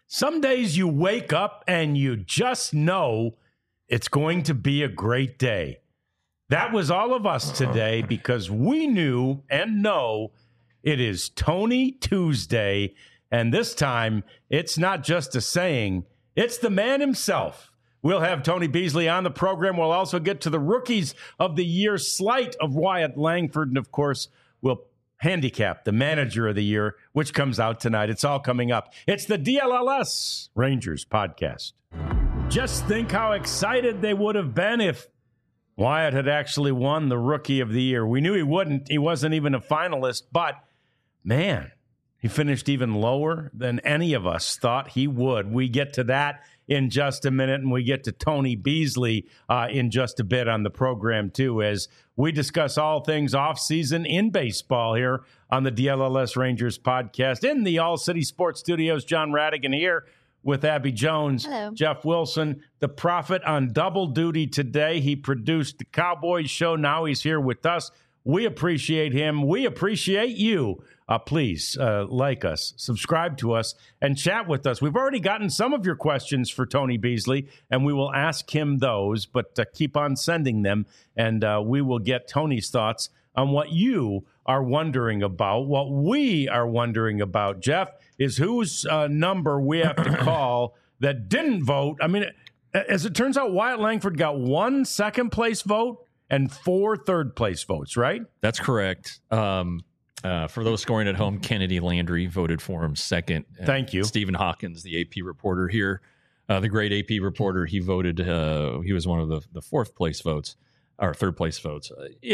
Some days you wake up and you just know it's going to be a great day. That was all of us today because we knew and know it is Tony Tuesday. And this time, it's not just a saying, it's the man himself. We'll have Tony Beasley on the program. We'll also get to the Rookies of the Year slate of Wyatt Langford. And, of course, we'll handicap the Manager of the Year, which comes out tonight. It's all coming up. It's the DLLS Rangers podcast. Just think how excited they would have been if Wyatt had actually won the Rookie of the Year. We knew he wouldn't. He wasn't even a finalist. But, man, he finished even lower than any of us thought he would. We get to that in just a minute, and we get to Tony Beasley in just a bit on the program, too, as we discuss all things offseason in baseball here on the DLLS Rangers podcast. In the All-City Sports Studios, John Radigan here with Abby Jones. Hello. Jeff Wilson, the Prophet, on double duty today. He produced the Cowboys show. Now he's here with us. We appreciate him. We appreciate you. Please like us, subscribe to us, and chat with us. We've already gotten some of your questions for Tony Beasley, and we will ask him those, but keep on sending them, and we will get Tony's thoughts on what you are wondering about. What we are wondering about, Jeff, is whose number we have to call that didn't vote. I mean, as it turns out, Wyatt Langford got 1 second-place vote and 4 third-place votes, right? That's correct. For those scoring at home, Kennedy Landry voted for him second. Thank you. Stephen Hawkins, the AP reporter here, the great AP reporter, he voted. He was one of the fourth place votes or third place votes.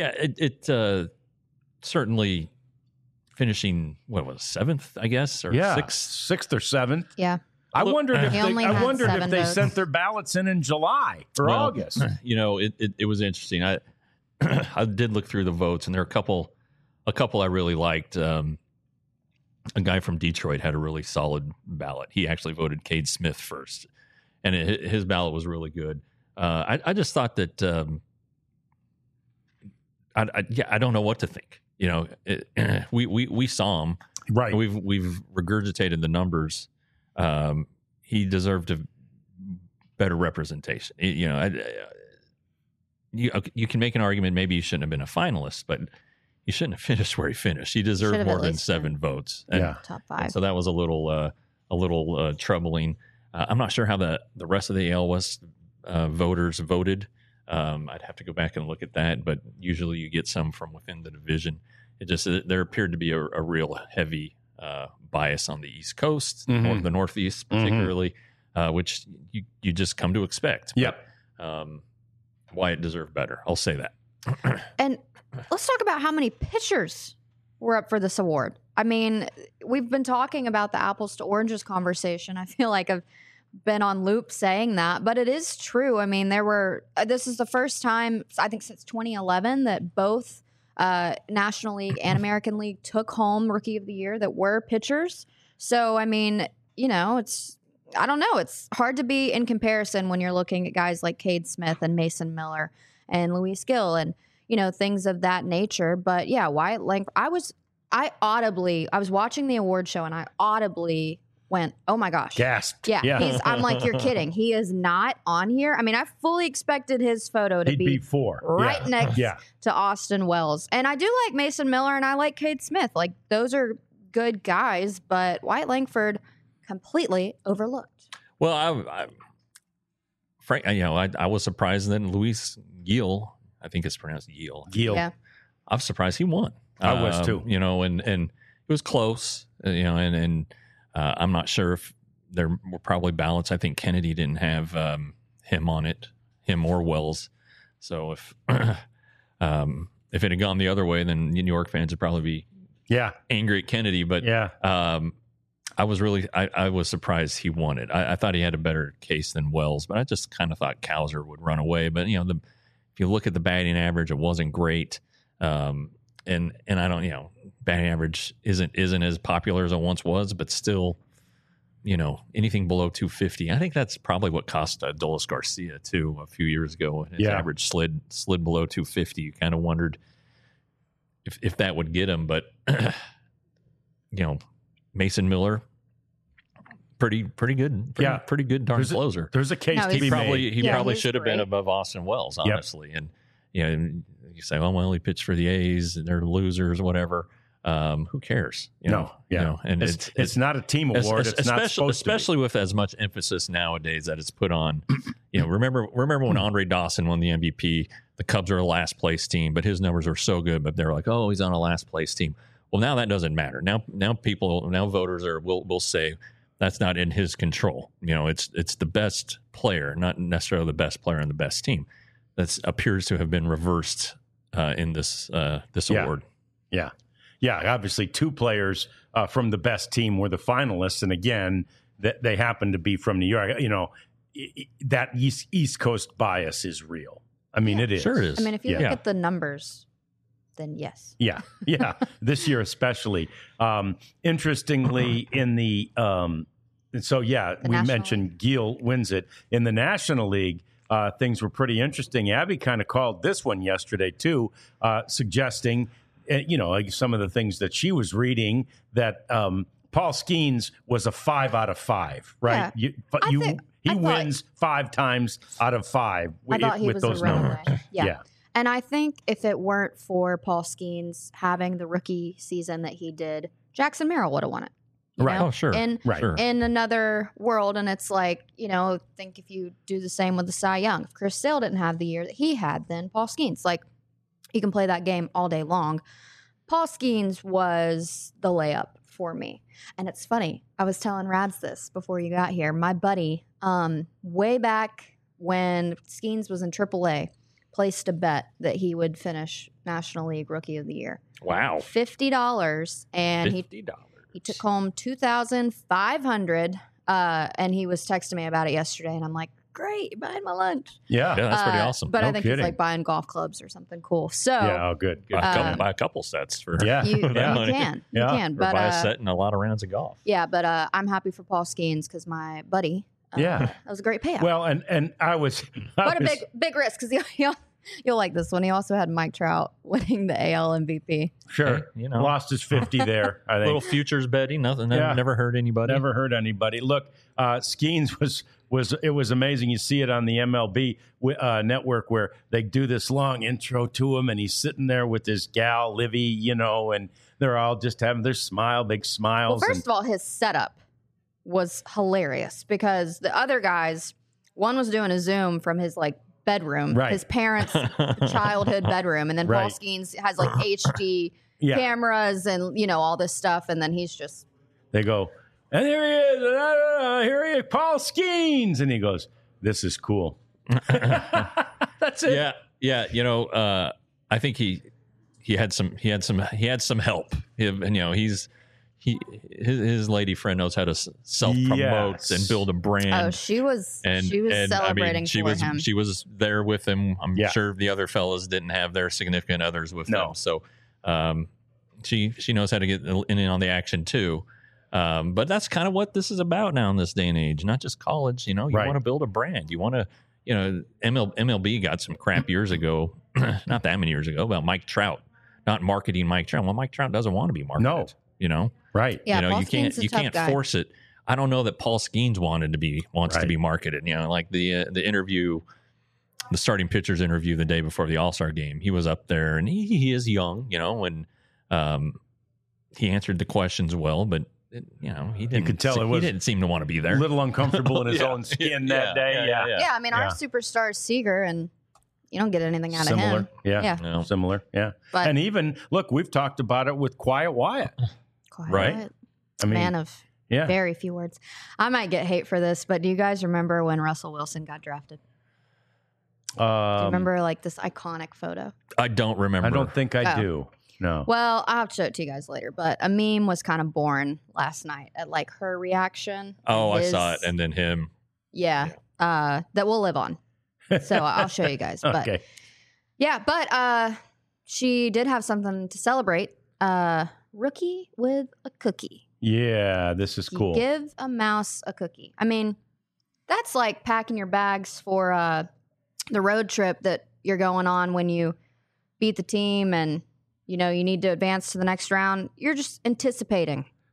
It certainly finishing seventh, I guess, or sixth or seventh. Yeah. I wondered if seven they votes. sent their ballots in July or August. You know, it was interesting. I did look through the votes, and there are a couple I really liked. A guy from Detroit had a really solid ballot. He actually voted Cade Smith first, and his ballot was really good. I just thought that I don't know what to think. You know, we saw him, right. We've regurgitated the numbers. He deserved a better representation. You know, you can make an argument maybe he shouldn't have been a finalist, but he shouldn't have finished where he finished. He deserved more than 7 votes. And, top 5. So that was a little troubling. I'm not sure how the rest of the AL West voters voted. I'd have to go back and look at that, but usually you get some from within the division. There appeared to be a real heavy bias on the East Coast, or the Northeast particularly, which you just come to expect. Yep. Wyatt deserved better. I'll say that. And let's talk about how many pitchers were up for this award. I mean, we've been talking about the apples to oranges conversation. I feel like I've been on loop saying that, but it is true. I mean, this is the first time, I think, since 2011 that both National League and American League took home Rookie of the Year that were pitchers. So, I mean, you know, I don't know. It's hard to be in comparison when you're looking at guys like Cade Smith and Mason Miller and Luis Gil and, you know, things of that nature. But yeah, Wyatt Langford, I was watching the award show and I audibly went, oh my gosh. Gasped. Yeah. I'm like, you're kidding. He is not on here. I mean, I fully expected his photo to be 4. right next to Austin Wells. And I do like Mason Miller and I like Cade Smith. Like, those are good guys, but Wyatt Langford completely overlooked. Well, I was surprised that Luis Gil, I think it's pronounced Gil. Yeah. I'm surprised he won. I was too. You know, and it was close. You know, and I'm not sure if there were probably ballots. I think Kennedy didn't have him on it, him or Wells. So if it had gone the other way, then New York fans would probably be angry at Kennedy. But I was surprised he won it. I thought he had a better case than Wells, but I just kind of thought Cowser would run away. But you know, if you look at the batting average, it wasn't great. And I don't, you know, batting average isn't as popular as it once was, but still, you know, anything below 250. I think that's probably what cost Adolis Garcia too a few years ago. And his average slid below 250. You kind of wondered if that would get him, but you know, Mason Miller pretty good. Pretty good darn closer. There's a case No, to he's- be He made. probably he's should have been great. above Austin Wells, honestly. And you say, oh well, he pitched for the A's and they're losers, whatever. Who cares? And it's not a team award. It's not supposed especially with as much emphasis nowadays that it's put on. Remember when Andre Dawson won the MVP? The Cubs are a last place team, but his numbers are so good. But they're like, oh, he's on a last place team. Well, now that doesn't matter. Now voters will say that's not in his control. It's the best player, not necessarily the best player on the best team. That appears to have been reversed in this award. Yeah. Yeah, obviously 2 players from the best team were the finalists, and again, they happen to be from New York. That East Coast bias is real. I mean, it is. Sure it is. I mean, if you look at the numbers, then yes. Yeah. This year especially. Interestingly, in the we National mentioned Gil wins it in the National League. Things were pretty interesting. Abby kind of called this one yesterday too, suggesting. Like some of the things that she was reading, that Paul Skeens was a 5 out of 5, right? Yeah. He I thought- wins 5 times out of 5 I thought he with was those a runaway. numbers. Yeah. And I think if it weren't for Paul Skeens having the rookie season that he did, Jackson Merrill would have won it. you Right. know? Oh, sure. Right. Sure. In another world, and it's like, think if you do the same with the Cy Young. If Chris Sale didn't have the year that he had, then Paul Skeens, you can play that game all day long. Paul Skeens was the layup for me. And it's funny. I was telling Rads this before you got here. My buddy, way back when Skeens was in AAA, placed a bet that he would finish National League Rookie of the Year. Wow. $50, and $50. he took home $2,500, and he was texting me about it yesterday, and I'm like, great, you're buying my lunch. Yeah. Yeah, that's pretty awesome. But No I think kidding. he's buying golf clubs or something cool. So Yeah. Oh, good. Buy a couple sets for Yeah. you, for that you money. can. Yeah. You can. Or But buy a set and a lot of rounds of golf. yeah, but I'm happy for Paul Skeens because my buddy, Yeah. that was a great payout. Well, and I was. What a big risk, because you'll like this one. He also had Mike Trout winning the AL MVP. Sure. Hey, Lost his 50 there, I think. Little futures betting, nothing. Yeah. Never hurt anybody. Never hurt anybody. Look, Skeens was amazing. You see it on the MLB network where they do this long intro to him, and he's sitting there with his gal Livy, and they're all just having their big smiles. Well, first of all, his setup was hilarious because the other guys, one was doing a Zoom from his bedroom, Right. his parents' childhood bedroom, and then Paul Right. Skeens has HD Yeah. cameras and all this stuff, and then he's just They go, and here he is, and here he is, Paul Skeens, and he goes, "This is cool." That's it. Yeah. I think he had some help. His lady friend knows how to self promote Yes. and build a brand. she was and celebrating she for was him. she was there with him. I'm Yeah. sure the other fellas didn't have their significant others with No. them, so she knows how to get in on the action too. But that's kind of what this is about now in this day and age. Not just college. You Right. want to build a brand. You want to. MLB got some crap years ago, not that many years ago, about Mike Trout not marketing Mike Trout. Well, Mike Trout doesn't want to be marketed. No. Right. Yeah, Paul you Skeens is a you tough can't guy. force it. I don't know that Paul Skeens wants Right. to be marketed. Like the interview, the starting pitchers interview the day before the All-Star game. He was up there, and he is young, and he answered the questions well, but he didn't. could tell he didn't seem to want to be A there. little uncomfortable in his Yeah. own skin Yeah. that day. Yeah. Yeah, I mean, our Yeah. superstar is Seager, and you don't get anything out of Similar. him. Yeah. Yeah. No. Similar. Yeah. But And even look, we've talked about it with Quiet Wyatt. Quiet, right? I mean, man of yeah. very few words. I might get hate for this, but do you guys remember when Russell Wilson got drafted? Do you remember this iconic photo? I don't remember. I don't think I Oh. do. No. Well, I'll have to show it to you guys later, but a meme was kind of born last night at her reaction. Oh, I His- saw it, and then him. Yeah. That we'll live on. So I'll show you guys. But Okay. yeah, but she did have something to celebrate. Rookie with a cookie. Yeah, this is You cool. give a mouse a cookie. I mean, that's like packing your bags for the road trip that you're going on when you beat the team and you need to advance to the next round. You're just anticipating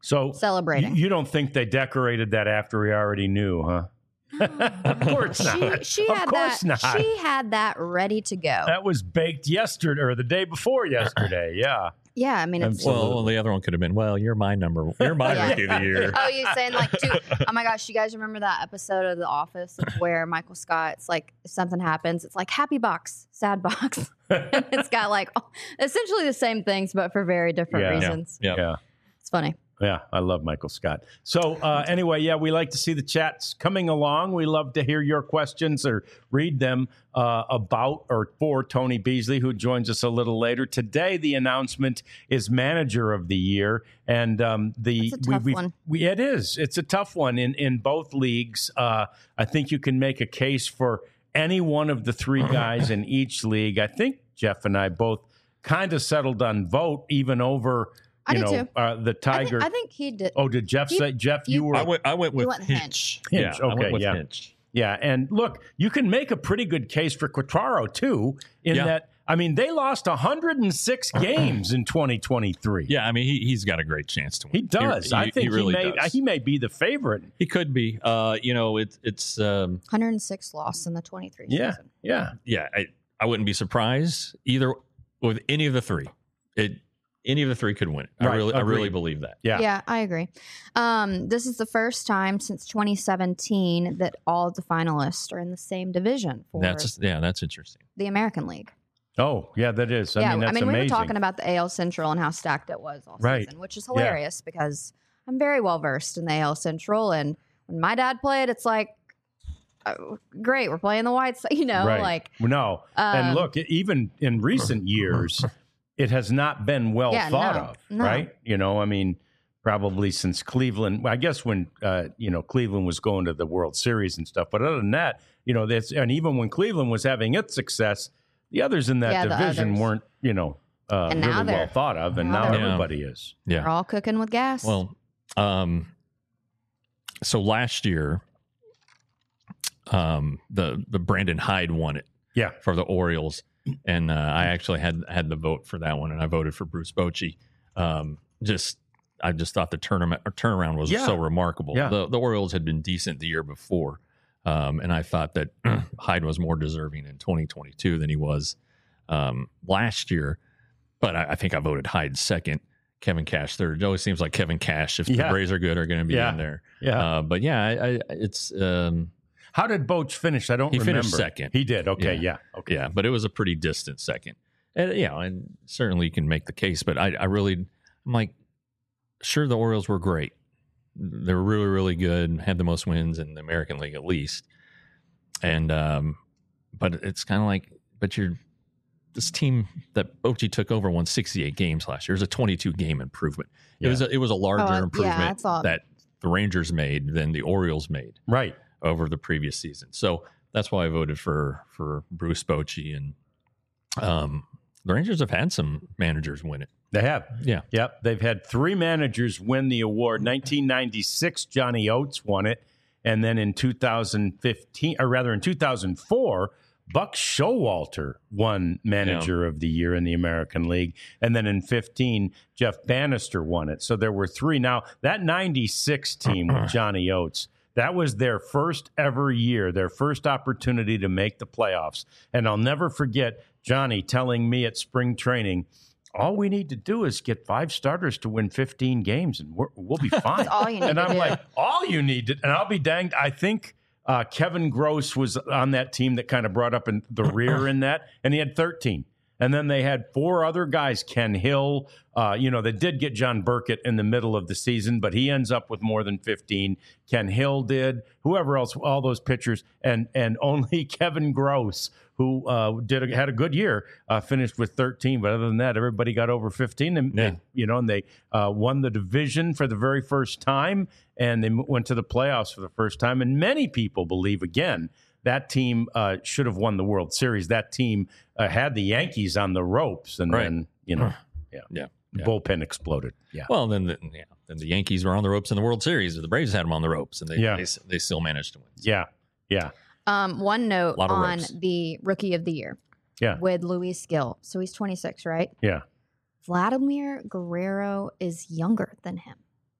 So celebrating. You don't think they decorated that after he already knew, huh? Of course not. She Of had course that. not. She had that ready to go. That was baked yesterday or the day before yesterday. Yeah. Yeah, I mean, it's Absolutely. Well, the other one could have been, well, you're my Yeah. rookie of the year. Oh, you saying like two? Oh my gosh, you guys remember that episode of The Office where Michael Scott's like, if something happens, it's like happy box, sad box. And it's got like essentially the same things, but for very different Yeah. reasons. Yeah. Yeah. It's funny. Yeah, I love Michael Scott. So anyway, yeah, we like to see the chats coming along. We love to hear your questions or read them about or for Tony Beasley, who joins us a little later. Today, the announcement is Manager of the Year. And It's a tough one. It is. It's a tough one in both leagues. I think you can make a case for any one of the three guys in each league. I think Jeff and I both kind of settled on vote, even over I did too. The Tiger. I think he did. Oh, did Jeff say? Jeff, you were. I went with went Hinch. Hinch, Yeah, I okay, went with yeah. Hinch. Yeah, and look, you can make a pretty good case for Quatraro too. In Yeah. that, I mean, they lost 106 games in 2023. Yeah, I mean, he's got a great chance to win. He does. I think he may be the favorite. He could be. It's 106 loss in the 23 Yeah, season. yeah. I wouldn't be surprised either with any of the three. Any of the three could win. I Right, really agreed. believe that. Yeah. I agree. This is the first time since 2017 that all of the finalists are in the same division for That's interesting. the American League. Oh, yeah, that is. I mean, that's we were amazing. talking about the AL Central and how stacked it was all Right. season, which is hilarious because I'm very well versed in the AL Central. And when my dad played, it's like, great, we're playing the White Sox, Right. like. No, and look, even in recent years, it has not been well thought of, no. right? I mean, probably since Cleveland. I guess when Cleveland was going to the World Series and stuff. But other than that, and even when Cleveland was having its success, the others in that the division others. weren't, And now really well they're- thought of, and now now they're- everybody is. They're Yeah. all cooking with gas. Well, so last year, the Brandon Hyde won it. Yeah. For the Orioles, and I actually had the vote for that one, and I voted for Bruce Bochy. I just thought the turnaround was so remarkable. Yeah. The Orioles had been decent the year before, and I thought that Hyde was more deserving in 2022 than he was last year. But I think I voted Hyde second, Kevin Cash third. It always seems like Kevin Cash, if the Braves are good, are going to be in there. Yeah. But yeah, it's. How did Boch finish? I don't He remember. finished second. He did. Okay. Yeah. Okay. Yeah, but it was a pretty distant second. And and certainly you can make the case, but I'm like, sure, the Orioles were great. They were really, really good, had the most wins in the American League at least. And but it's kind of like, this team that Bochy took over won 68 games last year. It was a 22 game improvement. Yeah. It was a larger I improvement thought- that the Rangers made than the Orioles made Right. over the previous season. So that's why I voted for Bruce Bochy. And the Rangers have had some managers win it. They have. Yeah. Yep. They've had three managers win the award. 1996, Johnny Oates won it. And then in 2004, Buck Showalter won Manager of the Year in the American League. And then in 15, Jeff Bannister won it. So there were three. Now, that 96 team with Johnny Oates, that was their first ever year, their first opportunity to make the playoffs. And I'll never forget Johnny telling me at spring training, all we need to do is get 5 starters to win 15 games and we'll be fine. That's all you need And to I'm do. like, all you need to, and I'll be danged. I think Kevin Gross was on that team that kind of brought up in the rear in that, and he had 13. And then they had 4 other guys, Ken Hill. They did get John Burkett in the middle of the season, but he ends up with more than 15. Ken Hill did, whoever else, all those pitchers, and only Kevin Gross, who had a good year, finished with 13. But other than that, everybody got over 15. And they won the division for the very first time, and they went to the playoffs for the first time. And many people believe, again, that team should have won the World Series. That team had the Yankees on the ropes, and then the bullpen exploded. Yeah. Well, then the Yankees were on the ropes in the World Series. The Braves had them on the ropes, and they still managed to win. Yeah. Yeah. One note Lot of on ropes. the Rookie of the Year. Yeah. With Luis Gil. So he's 26, right? Yeah. Vladimir Guerrero is younger than him.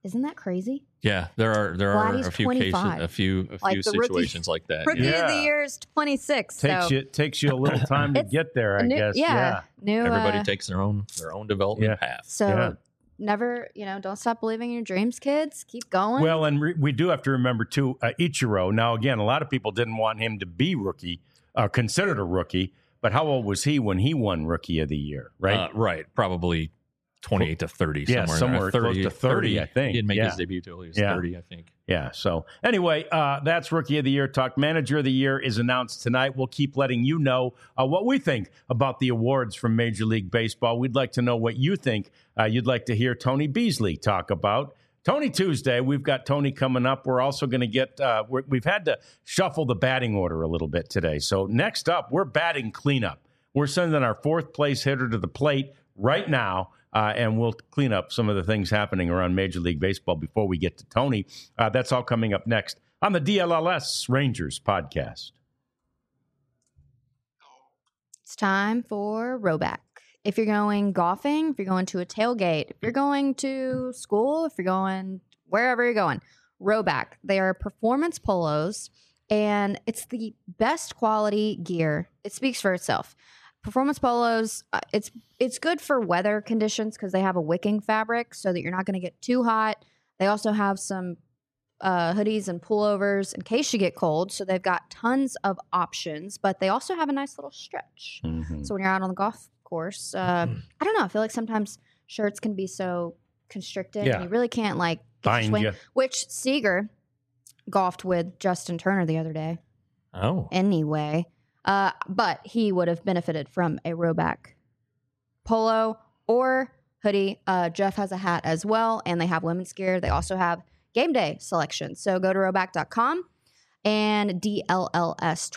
Isn't that crazy? Yeah, there are Vladdy's a few 25. cases, a few Like the rookie- situations like that. Rookie Yeah. of the year is 26. Takes you a little time to It's get there, I guess. New. Everybody takes their own development path. So never, don't stop believing in your dreams, kids. Keep going. Well, and we do have to remember too, Ichiro. Now, again, a lot of people didn't want him to be considered a rookie. But how old was he when he won Rookie of the Year? Right, right, probably 28 to 30, somewhere 30, close to 30, I think. He didn't make his debut till he was 30, I think. Yeah. So anyway, that's Rookie of the Year talk. Manager of the Year is announced tonight. We'll keep letting you know what we think about the awards from Major League Baseball. We'd like to know what you think. You'd like to hear Tony Beasley talk about. Tony Tuesday, we've got Tony coming up. We're also going to get, we've had to shuffle the batting order a little bit today. So next up, we're batting cleanup. We're sending our fourth place hitter to the plate right now. And we'll clean up some of the things happening around Major League Baseball before we get to Tony. That's all coming up next on the DLLS Rangers podcast. It's time for Rowback. If you're going golfing, if you're going to a tailgate, if you're going to school, if you're going wherever you're going, Rowback. They are performance polos, and it's the best quality gear. It speaks for itself. Performance polos, it's good for weather conditions because they have a wicking fabric so that you're not going to get too hot. They also have some hoodies and pullovers in case you get cold. So they've got tons of options, but they also have a nice little stretch. Mm-hmm. So when you're out on the golf course, I don't know. I feel like sometimes shirts can be so constricted and you really can't get Bind swing. you. Which Seager golfed with Justin Turner the other day. Oh. Anyway. But he would have benefited from a Rowback polo or hoodie. Jeff has a hat as well, and they have women's gear. They also have game day selection. So go to rowback.com and DLLS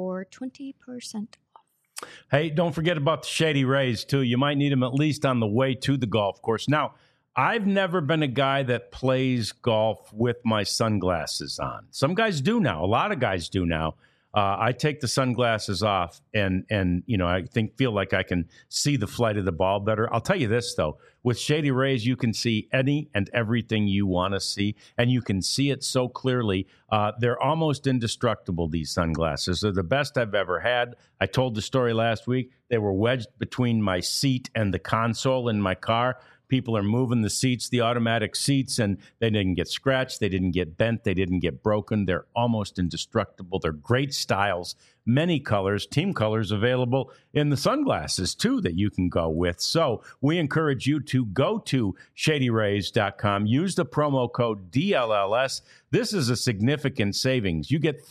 20% off. Hey, don't forget about the Shady Rays, too. You might need them at least on the way to the golf course. Now, I've never been a guy that plays golf with my sunglasses on. Some guys do now. A lot of guys do now. I take the sunglasses off and I feel like I can see the flight of the ball better. I'll tell you this, though. With Shady Rays, you can see any and everything you want to see, and you can see it so clearly. They're almost indestructible, these sunglasses. They're the best I've ever had. I told the story last week. They were wedged between my seat and the console in my car. People are moving the seats, the automatic seats, and they didn't get scratched. They didn't get bent. They didn't get broken. They're almost indestructible. They're great styles, many colors, team colors available in the sunglasses, too, that you can go with. So we encourage you to go to ShadyRays.com. Use the promo code DLLS. This is a significant savings. You get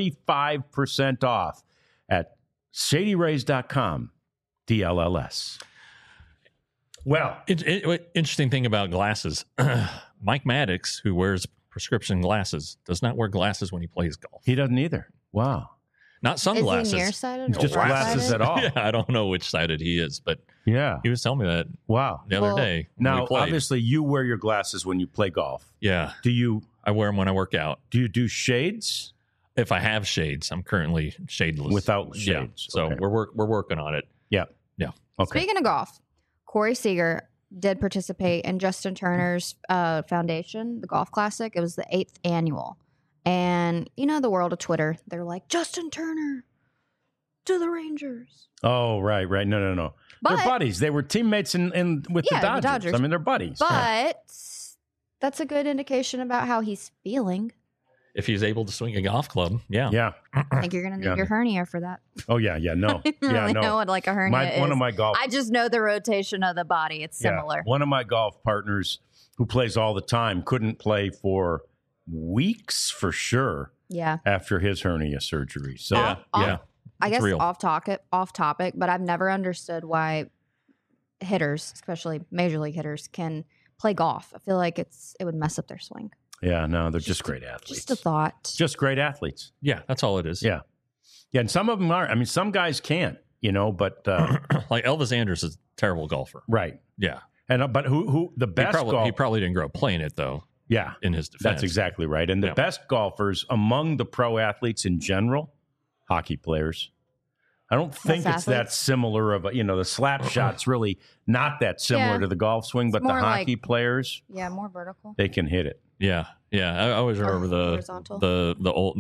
35% off at ShadyRays.com, DLLS. Well, interesting thing about glasses. Mike Maddox, who wears prescription glasses, does not wear glasses when he plays golf. He doesn't either. Wow. Not sunglasses. Is he nearsighted? Just glasses at all. Yeah, I don't know which sided he is, but yeah, he was telling me that the other day. Now, obviously, you wear your glasses when you play golf. Yeah. I wear them when I work out. Do you do shades? If I have shades, I'm currently shadeless. Without shades. Yeah. So we're working on it. Yeah. Yeah. Okay. Speaking of golf, Corey Seager did participate in Justin Turner's foundation, the Golf Classic. It was the 8th annual. And, the world of Twitter, they're like, Justin Turner to the Rangers. Oh, right. No. They're buddies. They were teammates with the Dodgers. I mean, they're buddies. But that's a good indication about how he's feeling. If he's able to swing a golf club, yeah. Yeah. I think you're going to need your hernia for that. Oh, yeah, no. I don't really know what a hernia is. One of my golf... I just know the rotation of the body. It's similar. One of my golf partners who plays all the time couldn't play for weeks for sure. Yeah. After his hernia surgery. So, I guess real. off topic, but I've never understood why hitters, especially major league hitters, can play golf. I feel like it would mess up their swing. Yeah, no, they're just great athletes. Just a thought. Just great athletes. Yeah, that's all it is. Yeah. Yeah, and some of them are. I mean, some guys can't, but... like Elvis Andrus is a terrible golfer. Right. Yeah. And But who the best he probably didn't grow up playing it, though. Yeah. In his defense. That's exactly right. And the best golfers among the pro athletes in general, hockey players. I don't think Less it's that athletes? similar of a, the slap shot's really not that similar Yeah. to the golf swing, but the more like- hockey players, Yeah, more vertical. they can hit it. Yeah. I always remember horizontal. the old,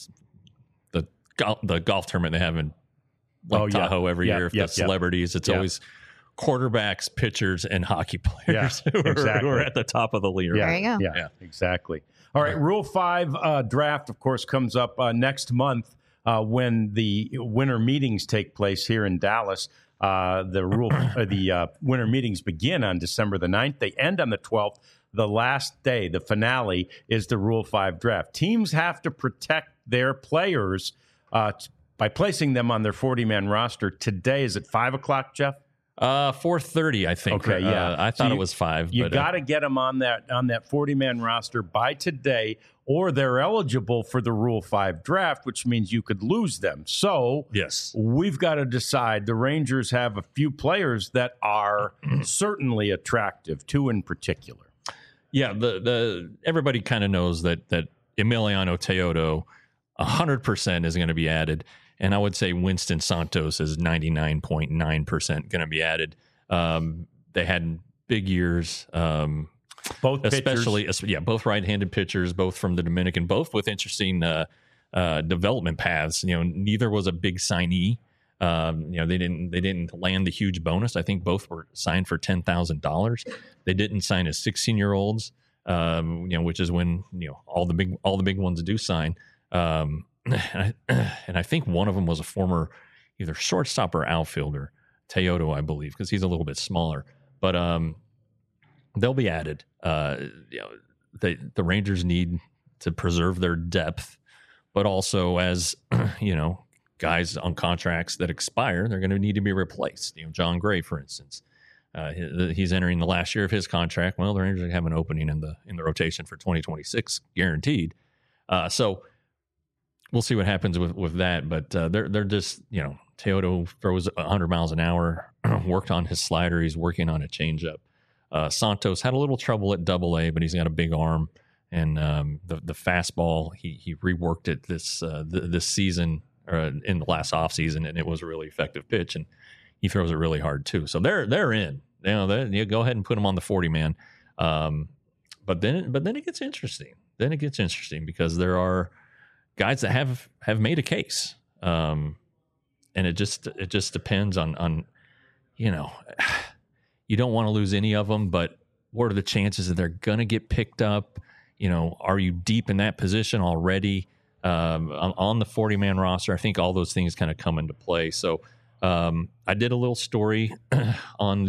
the golf tournament they have in Tahoe every year. The celebrities, it's always quarterbacks, pitchers, and hockey players who are at the top of the leaderboard. There you go. Yeah, exactly. All right, Rule 5 draft, of course, comes up next month when the winter meetings take place here in Dallas. The winter meetings begin on December the 9th. They end on the 12th. The last day, the finale, is the Rule 5 draft. Teams have to protect their players by placing them on their 40-man roster. Today, is it 5 o'clock, Jeff? 4:30, I think. Okay, yeah. I thought it was 5. You got to get them on that 40-man roster by today, or they're eligible for the Rule 5 draft, which means you could lose them. So yes, we've got to decide. The Rangers have a few players that are certainly attractive, 2 in particular. Yeah, everybody kind of knows that Emiliano Teodo 100% is going to be added. And I would say Winston Santos is 99.9% going to be added. They had big years. Both especially, pitchers. Both right-handed pitchers, both from the Dominican, both with interesting development paths. Neither was a big signee. They didn't land the huge bonus. I think both were signed for $10,000. They didn't sign as 16-year-olds, which is when all the big ones do sign. And I think one of them was a former either shortstop or outfielder, Teodo, I believe, because he's a little bit smaller. But they'll be added. The Rangers need to preserve their depth, but also as guys on contracts that expire, they're going to need to be replaced. John Gray, for instance, he's entering the last year of his contract. Well, the Rangers have an opening in the rotation for 2026, guaranteed. So we'll see what happens with that. But they're just Teodo throws 100 miles an hour. Worked on his slider. He's working on a changeup. Santos had a little trouble at Double-A, but he's got a big arm, and the fastball he reworked it this season. In the last offseason, and it was a really effective pitch, and he throws it really hard too. So they're in. You go ahead and put them on the 40-man. But then it gets interesting. Then it gets interesting because there are guys that have made a case, and it just depends on you don't want to lose any of them, but what are the chances that they're going to get picked up? Are you deep in that position already? On the 40-man roster, I think all those things kind of come into play. So I did a little story on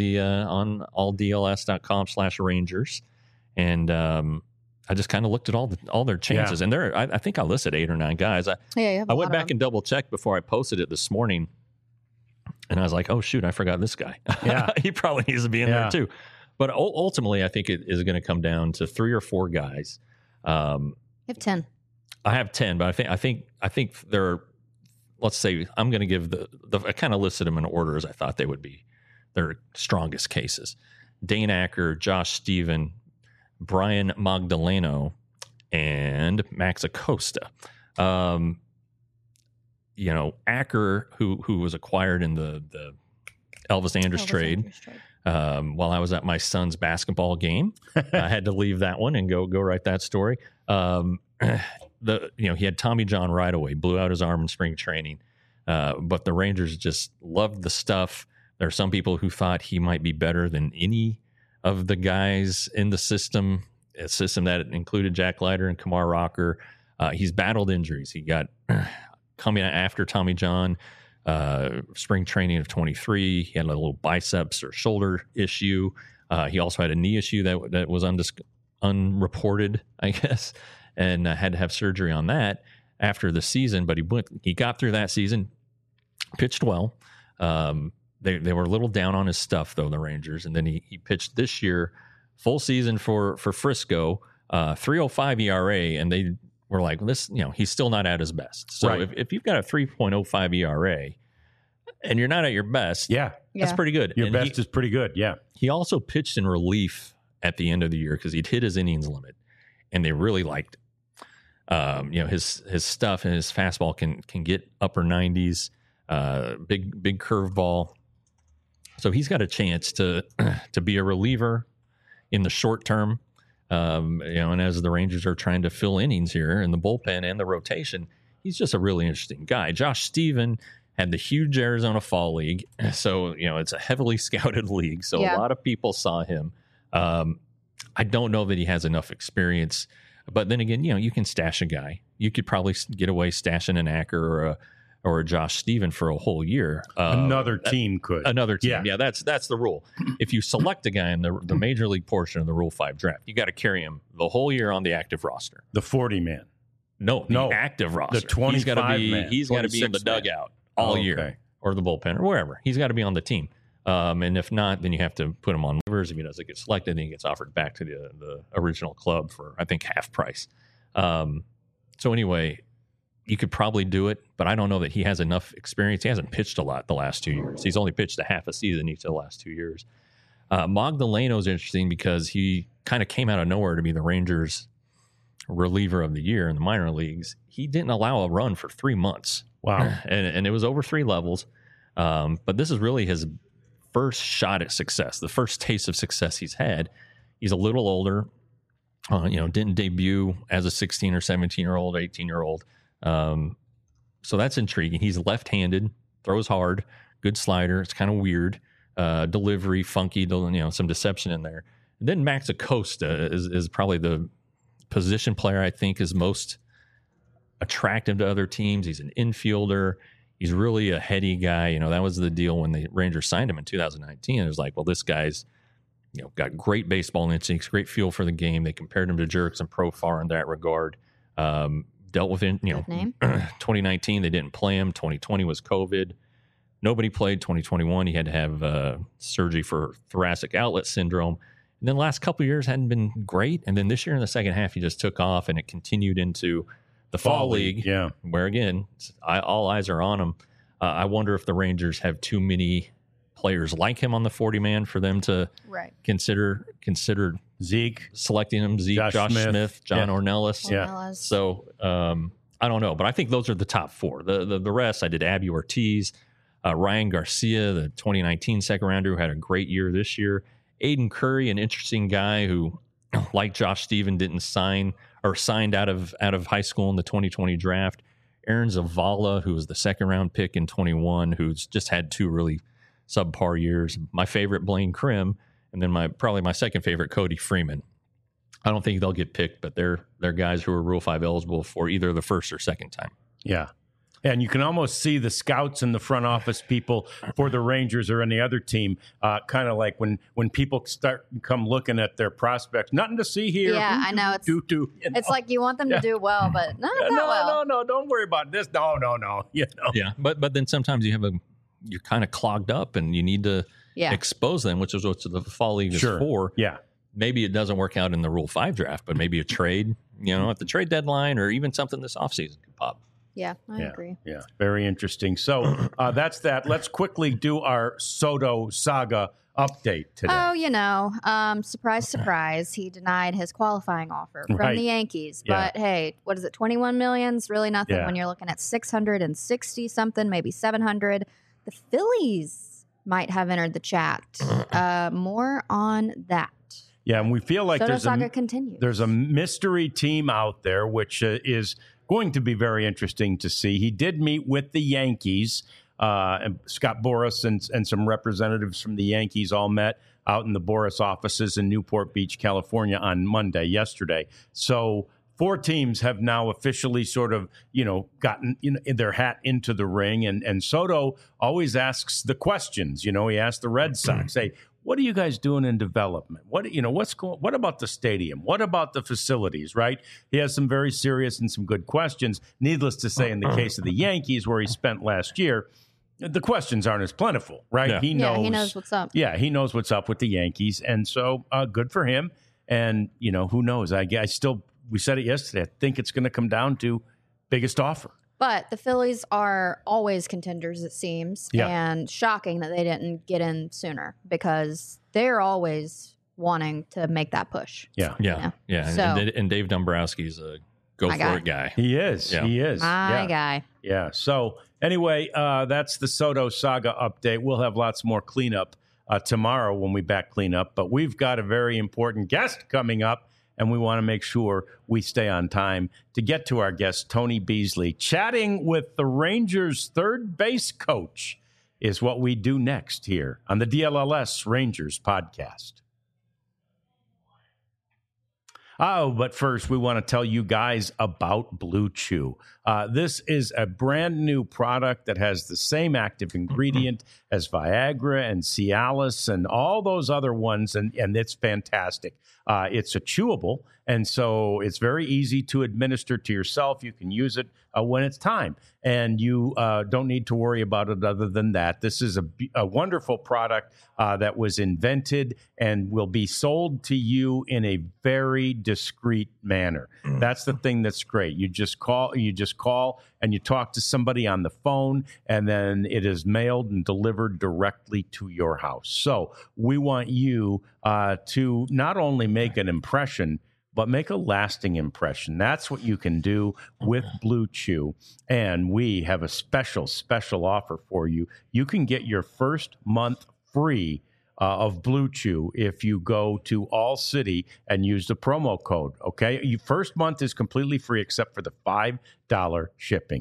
alldls.com/Rangers, and I just kind of looked at all their chances. And I think I listed 8 or 9 guys. I went back and double checked before I posted it this morning, and I was like, oh shoot, I forgot this guy. Yeah, he probably needs to be in there too. But ultimately, I think it is going to come down to 3 or 4 guys. You have 10. I have 10, but I think there are, let's say, I'm going to give I kind of listed them in order as I thought they would be their strongest cases. Dane Acker, Josh Stephen, Brian Magdaleno, and Max Acosta. Acker, who was acquired in the Elvis Andrus trade. While I was at my son's basketball game, I had to leave that one and go write that story. He had Tommy John right away, blew out his arm in spring training. But the Rangers just loved the stuff. There are some people who thought he might be better than any of the guys in the system, a system that included Jack Leiter and Kumar Rocker. He's battled injuries. He got coming after Tommy John, spring training of 23. He had a little biceps or shoulder issue. He also had a knee issue that was unreported, I guess. And had to have surgery on that after the season, but he got through that season, pitched well. They were a little down on his stuff though, the Rangers, and then he pitched this year, full season for Frisco, 3.05 ERA, and they were like, this, he's still not at his best. So if you've got a 3.05 ERA and you're not at your best, that's pretty good. Your best is pretty good. Yeah. He also pitched in relief at the end of the year because he'd hit his innings limit, and they really liked it. His stuff and his fastball can get upper 90s. big curveball. So he's got a chance to be a reliever in the short term. And as the Rangers are trying to fill innings here in the bullpen and the rotation, he's just a really interesting guy. Josh Stephen had the huge Arizona Fall League. So, it's a heavily scouted league. So a lot of people saw him. I don't know that he has enough experience. But then again, you can stash a guy. You could probably get away stashing an Acker or a Josh Stephen for a whole year. Another team could. Another team. Yeah, that's the rule. If you select a guy in the major league portion of the Rule 5 draft, you got to carry him the whole year on the active roster. The 40-man. No, active roster. The 25-man. He's got to be in the dugout all year, or the bullpen, or wherever. He's got to be on the team. And if not, then you have to put him on waivers. If he doesn't get selected, then he gets offered back to the original club for, I think, half price. So anyway, you could probably do it, but I don't know that he has enough experience. He hasn't pitched a lot the last 2 years. He's only pitched a half a season each of the last 2 years. Magdaleno is interesting because he kind of came out of nowhere to be the Rangers' reliever of the year in the minor leagues. He didn't allow a run for 3 months. Wow. And it was over 3 levels. But this is really his first shot at success, the first taste of success he's had. He's a little older, didn't debut as a 16 or 17-year-old, 18-year-old. So that's intriguing. He's left-handed, throws hard, good slider. It's kind of weird. Delivery, funky, some deception in there. And then Max Acosta is probably the position player I think is most attractive to other teams. He's an infielder. He's really a heady guy. That was the deal when the Rangers signed him in 2019. It was like, well, this guy's, got great baseball instincts, great feel for the game. They compared him to Jurickson Profar in that regard. Dealt with it, 2019, they didn't play him. 2020 was COVID. Nobody played. 2021, he had to have surgery for thoracic outlet syndrome. And then the last couple of years hadn't been great. And then this year in the second half, he just took off, and it continued into the Fall League, where, again, all eyes are on him. I wonder if the Rangers have too many players like him on the 40-man for them to consider Zeke, selecting him. Zeke, Josh Smith, John Ornelas. Yeah. So I don't know, but I think those are the top 4. The rest, I did Abby Ortiz, Ryan Garcia, the 2019 second rounder who had a great year this year. Aiden Curry, an interesting guy who, like Josh Stephen, didn't signed out of high school in the 2020 draft. Aaron Zavala, who was the second round pick in 21, who's just had 2 really subpar years. My favorite, Blaine Krim, and then probably my second favorite, Cody Freeman. I don't think they'll get picked, but they're guys who are Rule 5 eligible for either the first or second time. Yeah. And you can almost see the scouts and the front office people for the Rangers or any other team, kind of like when people come looking at their prospects. Nothing to see here. Yeah, I know. It's like you want them to do well, but not that well. No, don't worry about this. No. Yeah, but then sometimes you're kind of clogged up and you need to expose them, which is what the Fall League is for. Yeah. Maybe it doesn't work out in the Rule 5 draft, but maybe a trade, at the trade deadline or even something this offseason could pop. Yeah, I agree. Yeah, very interesting. So that's that. Let's quickly do our Soto saga update today. Oh, surprise, surprise. He denied his qualifying offer from the Yankees. But hey, what is it? 21 million is really nothing when you're looking at 660 something, maybe 700. The Phillies might have entered the chat. More on that. Yeah, and we feel like Soto saga continues. There's a mystery team out there, which is going to be very interesting to see. He did meet with the Yankees. And Scott Boras and some representatives from the Yankees all met out in the Boras offices in Newport Beach, California on yesterday. So 4 teams have now officially sort of, gotten their hat into the ring. And Soto always asks the questions. He asked the Red Sox, hey, what are you guys doing in development? What about the stadium? What about the facilities, right? He has some very serious and some good questions. Needless to say, in the case of the Yankees, where he spent last year, the questions aren't as plentiful, right? Yeah. He knows what's up. Yeah, he knows what's up with the Yankees. And so good for him. And, who knows? We said it yesterday. I think it's going to come down to biggest offer. But the Phillies are always contenders, it seems, and shocking that they didn't get in sooner because they're always wanting to make that push. Yeah. So, and Dave Dombrowski is a go My for guy. it guy. He is. Yeah. He is. My yeah. guy. Yeah. So anyway, that's the Soto saga update. We'll have lots more cleanup tomorrow when we back clean up. But we've got a very important guest coming up, and we want to make sure we stay on time to get to our guest, Tony Beasley. Chatting with the Rangers' third base coach is what we do next here on the DLLS Rangers podcast. Oh, but first, we want to tell you guys about Blue Chew. This is a brand new product that has the same active ingredient as Viagra and Cialis and all those other ones, and it's fantastic. It's a chewable, and so it's very easy to administer to yourself. You can use it when it's time, and you don't need to worry about it other than that. This is a wonderful product that was invented and will be sold to you in a very discreet manner. That's the thing that's great. You just call and you talk to somebody on the phone, and then it is mailed and delivered directly to your house. So we want you to not only make an impression, but make a lasting impression. That's what you can do with Blue Chew. And we have a special offer for you. You can get your first month free of Blue Chew if you go to All City and use the promo code. Okay, your first month is completely free except for the $5 shipping.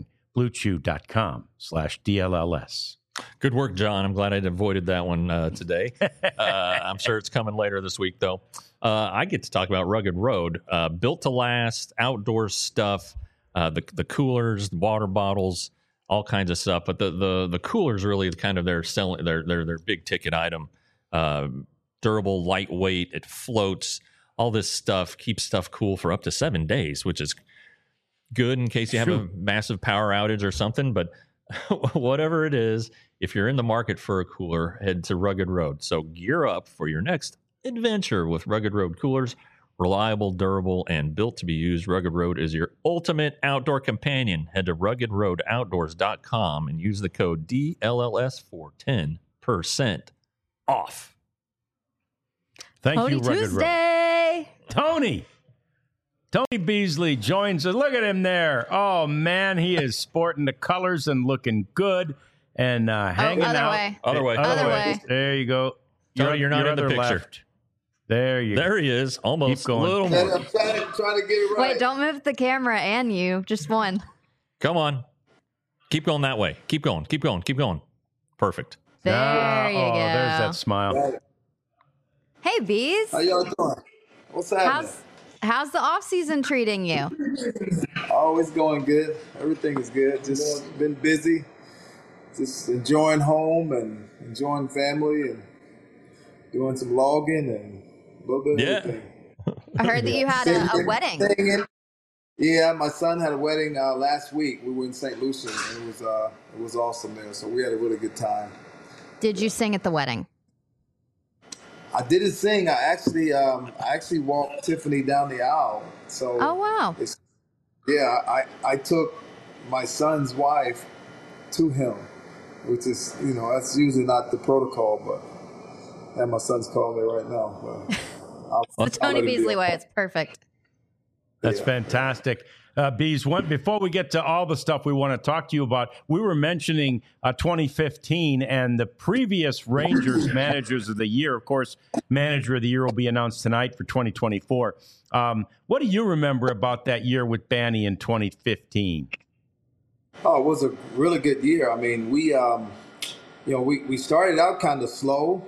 BlueChew.com/DLLS. Good work, John. I'm glad I avoided that one today. I'm sure it's coming later this week, though. I get to talk about Rugged Road, built to last, outdoor stuff, the coolers, the water bottles, all kinds of stuff. But the coolers really kind of their big ticket item. Durable, lightweight, it floats. All this stuff keeps stuff cool for up to 7 days, which is good in case you have a massive power outage or something. But whatever it is, if you're in the market for a cooler, head to Rugged Road. So gear up for your next adventure with Rugged Road coolers. Reliable, durable, and built to be used, Rugged Road is your ultimate outdoor companion. Head to ruggedroadoutdoors.com and use the code DLLS for 10% off. Thank Tony you, Rugged Road. Tuesday. Tony Beasley joins us. Look at him there. Oh, man, he is sporting the colors and looking good and hanging other out. way. Other way. Other way. There you go. Tony, you're not your in the other picture. left. There you go. There he is. Almost. Keep going. A little And more. I'm trying to get it right. Wait, don't move the camera and you. Just one. Come on. Keep going that way. Keep going. Keep going. Keep going. Perfect. There Ah, you go. There's that smile. Hey, Bees. How y'all doing? What's happening? How's the off season treating you? Always going good. Everything is good. Just been busy. Just enjoying home and enjoying family and doing some logging and a little bit of everything. I heard that you had a wedding. Singing. Yeah, my son had a wedding last week. We were in St. Lucia, and it was awesome there. So we had a really good time. Did you sing at the wedding? I didn't sing. I actually walked Tiffany down the aisle. So Oh, wow. I took my son's wife to him, which is that's usually not the protocol, but and my son's calling me right now. But The Tony Beasley way. It's perfect. That's Yeah. fantastic. Bees, before we get to all the stuff we want to talk to you about, we were mentioning 2015 and the previous Rangers Managers of the Year. Of course, Manager of the Year will be announced tonight for 2024. What do you remember about that year with Banny in 2015? Oh, it was a really good year. I mean, we started out kind of slow,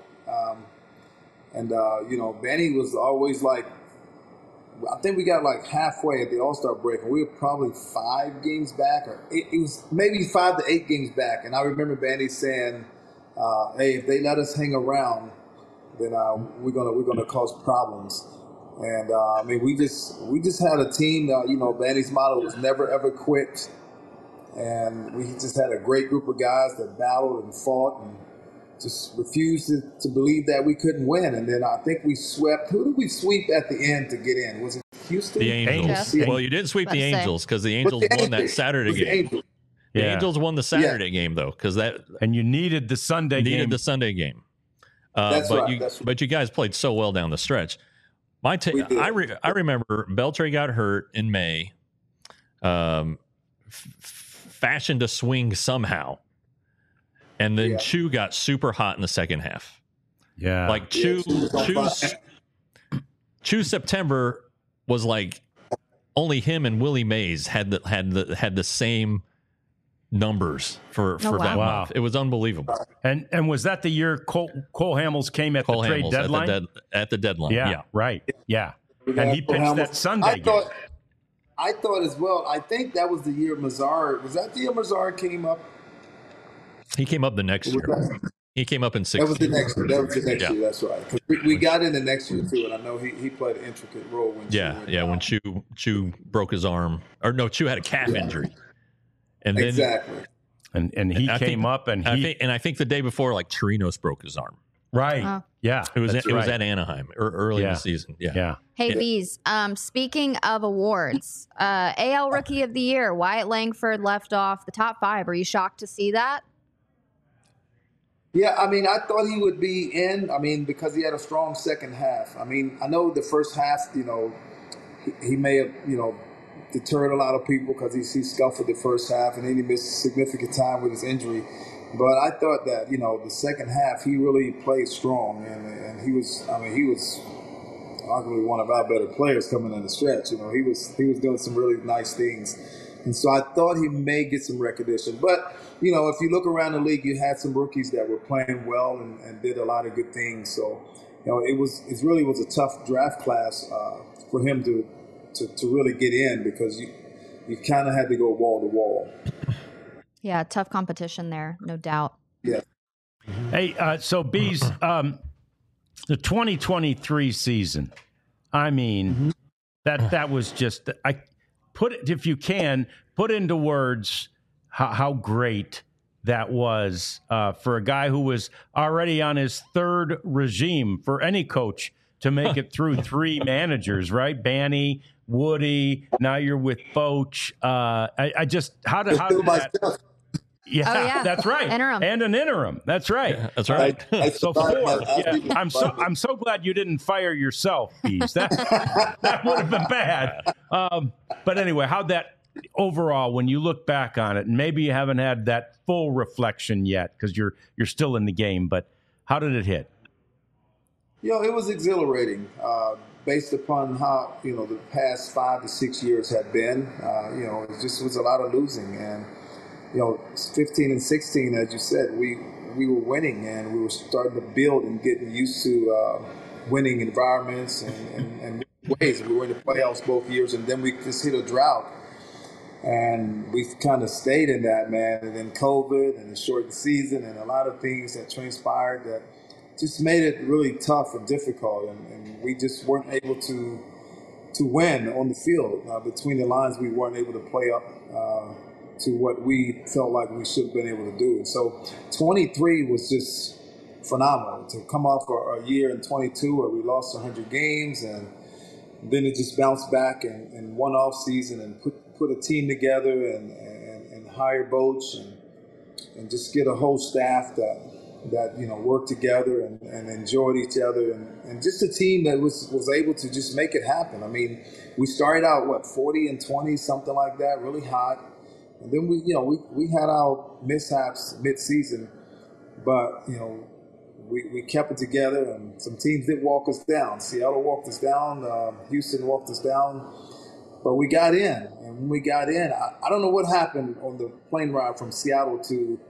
and Banny was always like, I think we got like halfway at the All-Star break, and we were probably 5 games back, or it was maybe 5 to 8 games back. And I remember Banny saying, "Hey, if they let us hang around, then we're gonna cause problems." And I mean, we just had a team. Banny's motto was never ever quit, and we just had a great group of guys that battled and fought and just refused to believe that we couldn't win. And then I think we swept. Who did we sweep at the end to get in? Was it Houston? The Angels. Yeah. Well, you didn't sweep the About to say. Angels because the Angels won that Saturday game. Angels. The Yeah. Angels won the Saturday game, though, because that And you needed the Sunday needed game. the Sunday game. That's right, that's right. But you guys played so well down the stretch. We did. I remember Beltre got hurt in May. fashioned a swing somehow. And then Yeah. Chu got super hot in the second half. Yeah. Like Chu September was like only him and Willie Mays had the same numbers for Oh, wow. that Wow. month. It was unbelievable. And was that the year Cole Hamels came at Cole the trade Hamels deadline? at the deadline. yeah, Yeah. right. Yeah. We And got he pitched Hamels. that Sunday game. I thought as well. I think that was the year Mazar. Was that the year Mazar came up? He came up the next Was year. that- He came up in That was the 16. next year. That was the next Yeah. year. That's right. 'Cause we got in the next year too, and I know he played an intricate role when. Yeah, Chu went yeah. down. When Chu broke his arm, or no, Chu had a calf injury, and then Exactly. And he I came think- up and I think the day before, like Chirinos broke his arm. right. Oh. Yeah. It was that's it was right. at Anaheim early in Yeah. the season. Yeah. Yeah. Hey, Yeah. Bees, speaking of awards, AL Rookie of the Year, Wyatt Langford left off the top 5. Are you shocked to see that? Yeah, I mean, I thought he would be in. I mean, because he had a strong second half. I mean, I know the first half, he may have, deterred a lot of people because he scuffled the first half and then he missed significant time with his injury. But I thought that, the second half, he really played strong. And he was arguably one of our better players coming in the stretch. He was doing some really nice things. And so I thought he may get some recognition. But, if you look around the league, you had some rookies that were playing well and did a lot of good things. So, it really was a tough draft class for him to really get in because you kind of had to go wall to wall. Yeah, tough competition there, no doubt. Yeah. Hey, so Bees, the 2023 season. I mean, that was just. If you can put into words how great that was for a guy who was already on his third regime for any coach to make it through 3 managers, right? Banny, Woody. Now you're with Foch. I just how did that? Yeah, Oh, yeah. that's right. Interim. And an interim. That's right. Yeah, that's right. So 4. Yeah. I'm so glad you didn't fire yourself, Bees. That would have been bad. But anyway, how'd that overall, when you look back on it, and maybe you haven't had that full reflection yet because you're still in the game, but how did it hit? It was exhilarating based upon how, the past 5 to 6 years had been. It just was a lot of losing. And, 15 and 16, as you said, we were winning and we were starting to build and getting used to winning environments and ways. We were in the playoffs both years, and then we just hit a drought. And we kind of stayed in that, man. And then COVID and the shortened season and a lot of things that transpired that just made it really tough and difficult. And we just weren't able to win on the field. Between the lines, we weren't able to play up to what we felt like we should have been able to do. And so 23 was just phenomenal. To come off a year in 22 where we lost 100 games and then it just bounced back in one off season and put a team together and hire Boch and just get a whole staff that worked together and enjoyed each other and just a team that was able to just make it happen. I mean, we started out 40 and 20, something like that, really hot, and then we had our mishaps mid-season, but we kept it together, and some teams did walk us down. Seattle walked us down, Houston walked us down, but we got in. And when we got in, I don't know what happened on the plane ride from Seattle to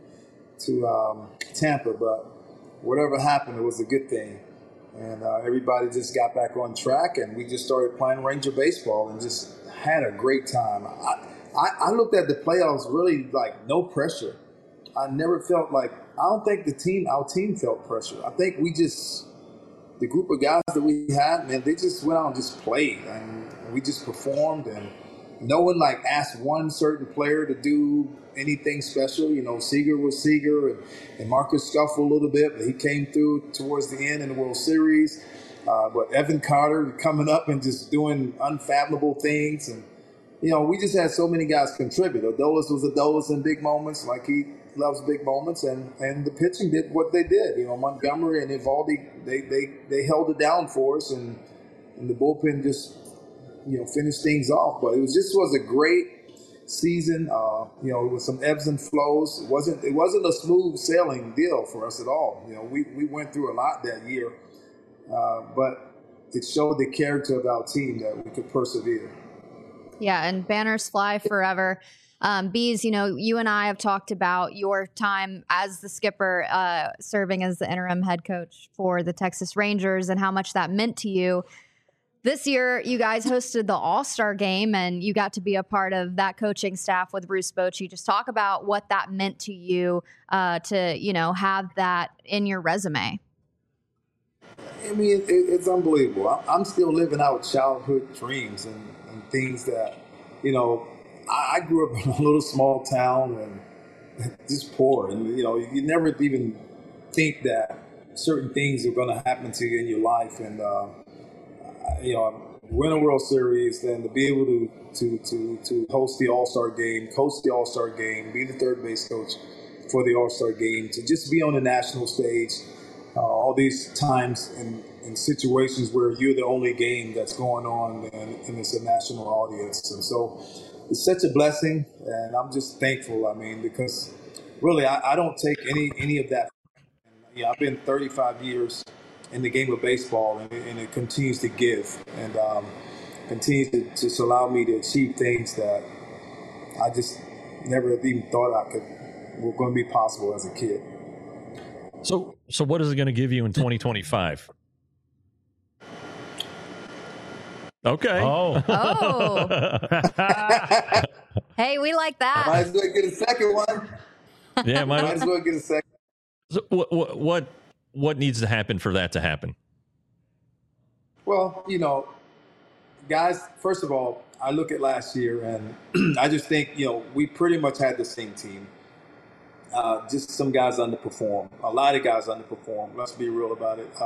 Tampa, but whatever happened, it was a good thing. And everybody just got back on track, and we just started playing Ranger baseball and just had a great time. I looked at the playoffs really like no pressure. I never felt like, I don't think our team felt pressure. I think the group of guys that we had, man, they just went out and just played, and we just performed, and no one asked one certain player to do anything special. Seager was Seager, and Marcus scuffled a little bit, but he came through towards the end in the World Series. But Evan Carter coming up and just doing unfathomable things, and we just had so many guys contribute. Adolis was Adolis in big moments, like he loves big moments, and the pitching did what they did. Montgomery and Evaldi, they held it down for us, and the bullpen just finished things off. But it was a great season. With some ebbs and flows. It wasn't a smooth sailing deal for us at all. We went through a lot that year, but it showed the character of our team that we could persevere. Yeah, and banners fly forever. Bees, you and I have talked about your time as the skipper, serving as the interim head coach for the Texas Rangers and how much that meant to you. This year, you guys hosted the All-Star game, and you got to be a part of that coaching staff with Bruce Bochy. Just talk about what that meant to you to, have that in your resume. I mean, it's unbelievable. I'm still living out childhood dreams and things that, I grew up in a little small town and just poor. And, you never even think that certain things are going to happen to you in your life. And, win a World Series, then to be able to host the All-Star game, coach the All-Star game, be the third base coach for the All-Star game, to just be on the national stage all these times in situations where you're the only game that's going on and it's a national audience. And so it's such a blessing, and I'm just thankful, because really I don't take any of that. I've been 35 years in the game of baseball, and it continues to give and continues to just allow me to achieve things that I just never even thought were going to be possible as a kid. So what is it going to give you in 2025? Okay. Oh. Hey, we like that. Might as well get a second one. Yeah, might as well get a second. So what needs to happen for that to happen? Well, guys, first of all, I look at last year and I just think, we pretty much had the same team. Just some guys underperformed. A lot of guys underperformed. Let's be real about it.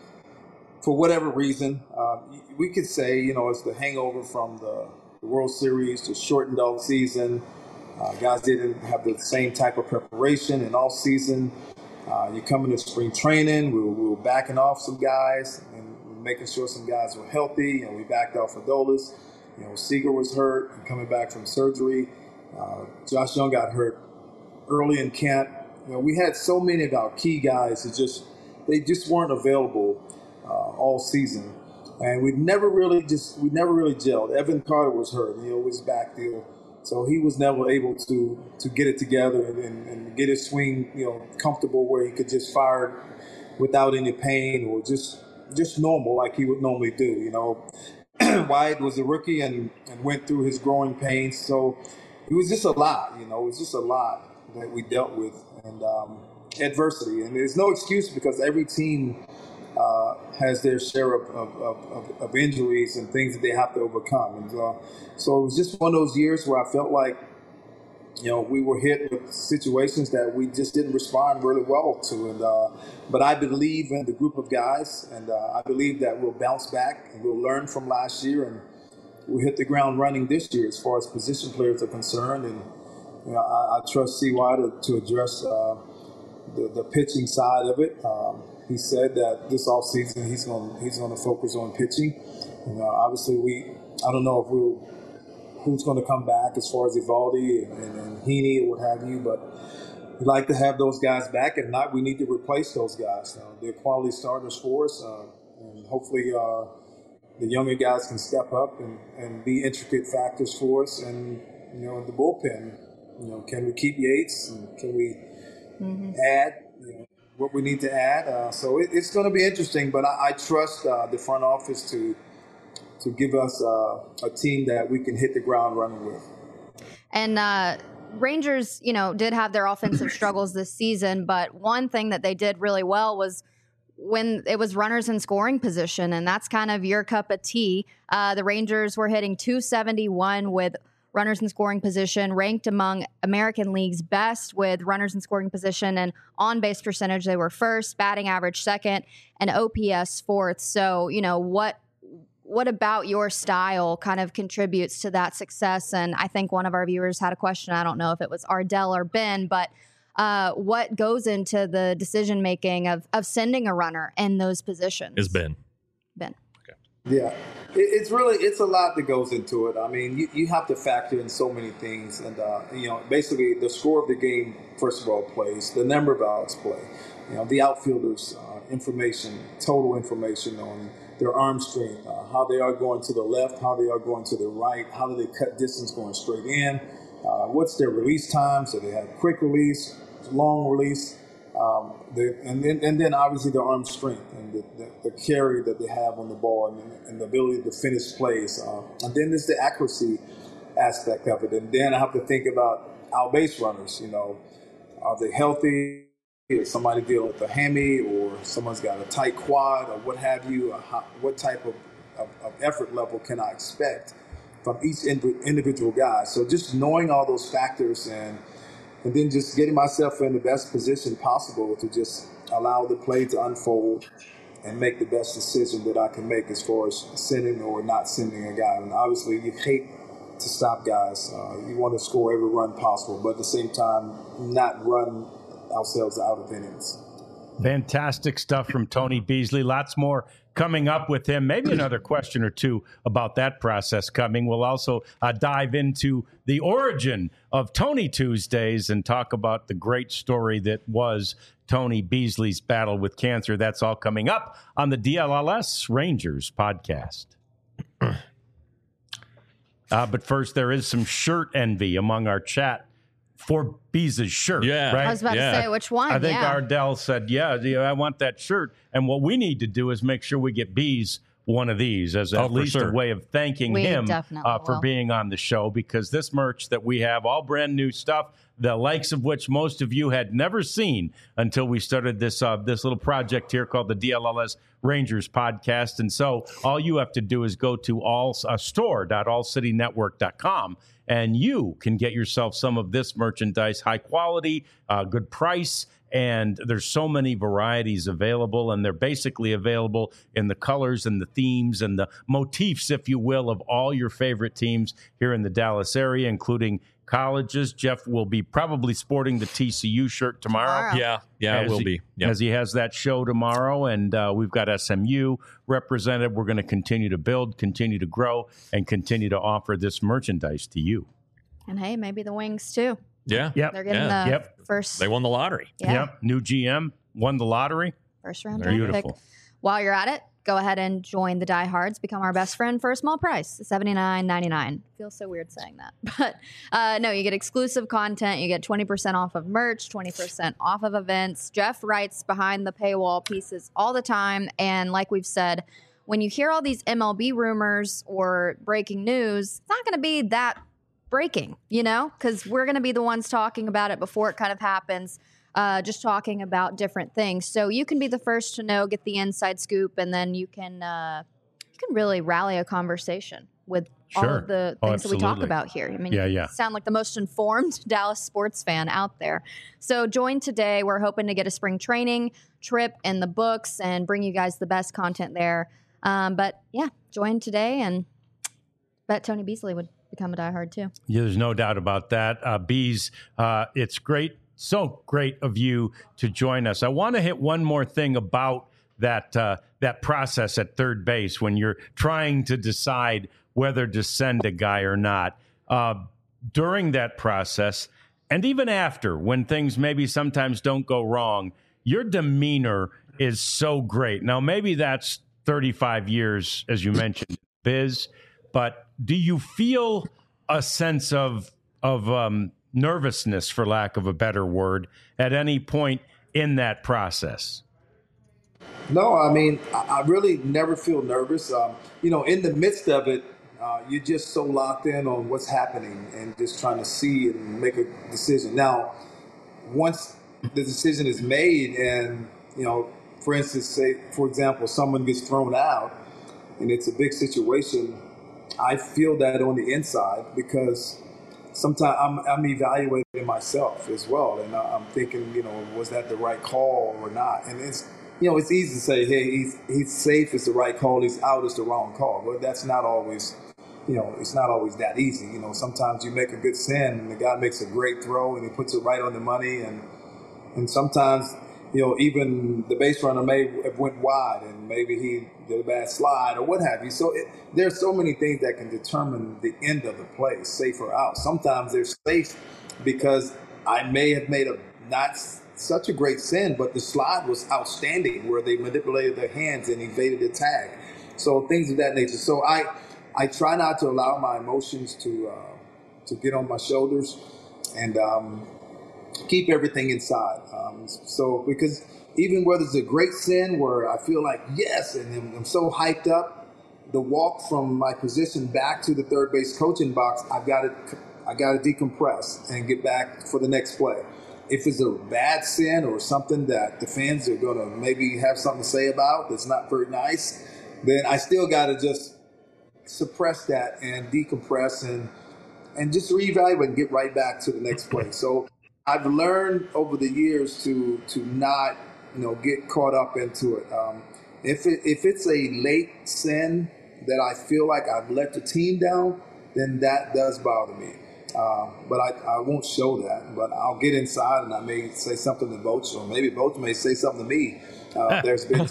For whatever reason, we could say, it's the hangover from the World Series, the shortened off season. Guys didn't have the same type of preparation in off season. You come into spring training, we were backing off some guys and making sure some guys were healthy, and we backed off Adolis. Seager was hurt and coming back from surgery. Josh Young got hurt early in camp. We had so many of our key guys they just weren't available all season, and we never really gelled. Evan Carter was hurt, with his back deal, so he was never able to get it together and get his swing, comfortable where he could just fire without any pain or just normal like he would normally do. Wyatt was a rookie and went through his growing pains, so it was just a lot. It was just a lot that we dealt with, and adversity. And there's no excuse because every team has their share of injuries and things that they have to overcome. And so it was just one of those years where I felt like, we were hit with situations that we just didn't respond really well to. And but I believe in the group of guys, and I believe that we'll bounce back and we'll learn from last year, and we'll hit the ground running this year as far as position players are concerned. And I trust CY to address the pitching side of it. He said that this offseason he's going to focus on pitching. Obviously, I don't know who's going to come back as far as Evaldi and Heaney or what have you, but we'd like to have those guys back. If not, we need to replace those guys. They're quality starters for us, and hopefully the younger guys can step up and be intricate factors for us. And the bullpen, can we keep Yates, and can we add what we need to add? So it's going to be interesting, but I trust the front office to give us a team that we can hit the ground running with. And Rangers, did have their offensive struggles this season, but one thing that they did really well was when it was runners in scoring position, and that's kind of your cup of tea. The Rangers were hitting .271 with runners in scoring position, ranked among American League's best with runners in scoring position, and on-base percentage, they were first, batting average second, and OPS fourth. So, what about your style kind of contributes to that success? And I think one of our viewers had a question. I don't know if it was Ardell or Ben, but what goes into the decision-making of sending a runner in those positions? Is Ben. Ben. Okay. Yeah, it's a lot that goes into it. I mean, you have to factor in so many things, and basically the score of the game, first of all, plays, the number of outs play, the outfielders' information, total information on their arm strength, how they are going to the left, how they are going to the right, how do they cut distance going straight in, what's their release time, so they have quick release, long release. And then obviously the arm strength and the carry that they have on the ball and the ability to finish plays. And then there's the accuracy aspect of it. And then I have to think about our base runners. Are they healthy? Is somebody dealing with a hammy, or someone's got a tight quad, or what have you? What type of effort level can I expect from each individual guy? So just knowing all those factors and then just getting myself in the best position possible to just allow the play to unfold and make the best decision that I can make as far as sending or not sending a guy. And obviously, you hate to stop guys. You want to score every run possible, but at the same time, not run ourselves out of innings. Fantastic stuff from Tony Beasley. Lots more coming up with him. Maybe another question or two about that process coming. We'll also dive into the origin of Tony Tuesdays and talk about the great story that was Tony Beasley's battle with cancer. That's all coming up on the DLLS Rangers podcast. But first, there is some shirt envy among our chat for Bees' shirt. Yeah. Right? I was about to say, which one? I think Ardell said, yeah, I want that shirt. And what we need to do is make sure we get Bees one of these as at least a way of thanking him for being on the show, because this merch that we have, all brand new stuff, the likes of which most of you had never seen until we started this little project here called the DLLS Rangers podcast. And so all you have to do is go to store.allcitynetwork.com and you can get yourself some of this merchandise, high quality, good price. And there's so many varieties available, and they're basically available in the colors and the themes and the motifs, if you will, of all your favorite teams here in the Dallas area, including colleges. Jeff will be probably sporting the TCU shirt tomorrow. Yeah, it will be. Yep. As he has that show tomorrow, and we've got SMU represented. We're going to continue to build, continue to grow, and continue to offer this merchandise to you. And hey, maybe the Wings too. Yeah. Yep. They're getting the first. They won the lottery. Yeah. Yep. New GM won the lottery. First round Beautiful. pick. While you're at it, go ahead and join the diehards. Become our best friend for a small price, $79.99. Feels so weird saying that, but no, you get exclusive content. You get 20% off of merch, 20% off of events. Jeff writes behind the paywall pieces all the time, and like we've said, when you hear all these MLB rumors or breaking news, it's not going to be that breaking, because we're going to be the ones talking about it before it kind of happens, just talking about different things. So you can be the first to know, get the inside scoop, and then you can really rally a conversation with all of the things that we talk about here. I mean, you sound like the most informed Dallas sports fan out there. So join today. We're hoping to get a spring training trip in the books and bring you guys the best content there. But yeah, join today, and bet Tony Beasley would become a diehard too. Yeah, there's no doubt about that. Bees, it's great, so great of you to join us. I want to hit one more thing about that process at third base when you're trying to decide whether to send a guy or not. During that process, and even after, when things maybe sometimes don't go wrong, your demeanor is so great. Now, maybe that's 35 years, as you mentioned, Biz, but do you feel a sense of nervousness, for lack of a better word, at any point in that process? No, I mean, I really never feel nervous. In the midst of it, you're just so locked in on what's happening and just trying to see and make a decision. Now, once the decision is made and, for instance, say, for example, someone gets thrown out and it's a big situation, I feel that on the inside because sometimes I'm evaluating myself as well. And I'm thinking, was that the right call or not? And it's easy to say, hey, he's safe, it's the right call. He's out, it's the wrong call. But that's not always, it's not always that easy. Sometimes you make a good send and the guy makes a great throw and he puts it right on the money. And sometimes, even the base runner may have went wide and maybe he did a bad slide or what have you. So there's so many things that can determine the end of the play, safe or out. Sometimes they're safe because I may have made a not such a great sin, but the slide was outstanding where they manipulated their hands and evaded the tag. So things of that nature. So I try not to allow my emotions to get on my shoulders and keep everything inside. So because even whether it's a great sin where I feel like yes, and I'm so hyped up, the walk from my position back to the third base coaching box, I got to decompress and get back for the next play. If it's a bad sin or something that the fans are going to maybe have something to say about that's not very nice, then I still got to just suppress that and decompress and just reevaluate and get right back to the next play. So I've learned over the years to not, get caught up into it. If it's a late sin that I feel like I've let the team down, then that does bother me. But I won't show that. But I'll get inside and I may say something to Boch, or maybe Boch may say something to me. There's been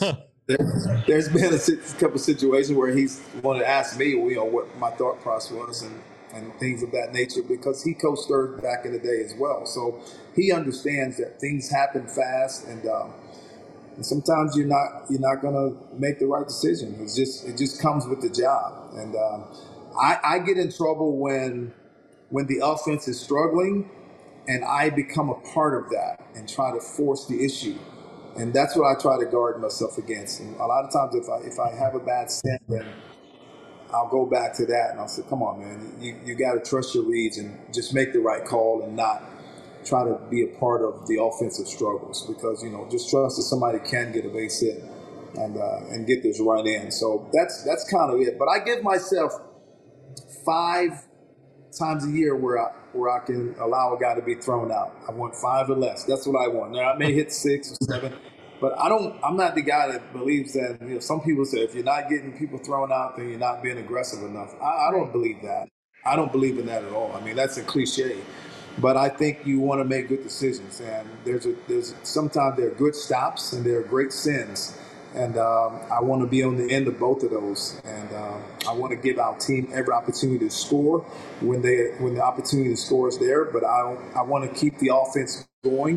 a couple of situations where he's wanted to ask me, what my thought process was and things of that nature, because he coached third back in the day as well. So he understands that things happen fast, and sometimes you're not going to make the right decision. It just comes with the job. And I get in trouble when the offense is struggling, and I become a part of that and try to force the issue. And that's what I try to guard myself against. And a lot of times, if I have a bad sin, then I'll go back to that and I'll say, come on, man, you got to trust your reads and just make the right call and not try to be a part of the offensive struggles, because, just trust that somebody can get a base hit and get this run in. So that's kind of it. But I give myself 5 times a year where I can allow a guy to be thrown out. I want 5 or less. That's what I want. Now I may hit 6 or 7. But I'm not the guy that believes that, some people say if you're not getting people thrown out, then you're not being aggressive enough. I don't believe that. I don't believe in that at all. I mean, that's a cliche. But I think you want to make good decisions. And there's sometimes there are good stops and there are great sins. And I want to be on the end of both of those. And I want to give our team every opportunity to score when the opportunity to score is there. But I want to keep the offense going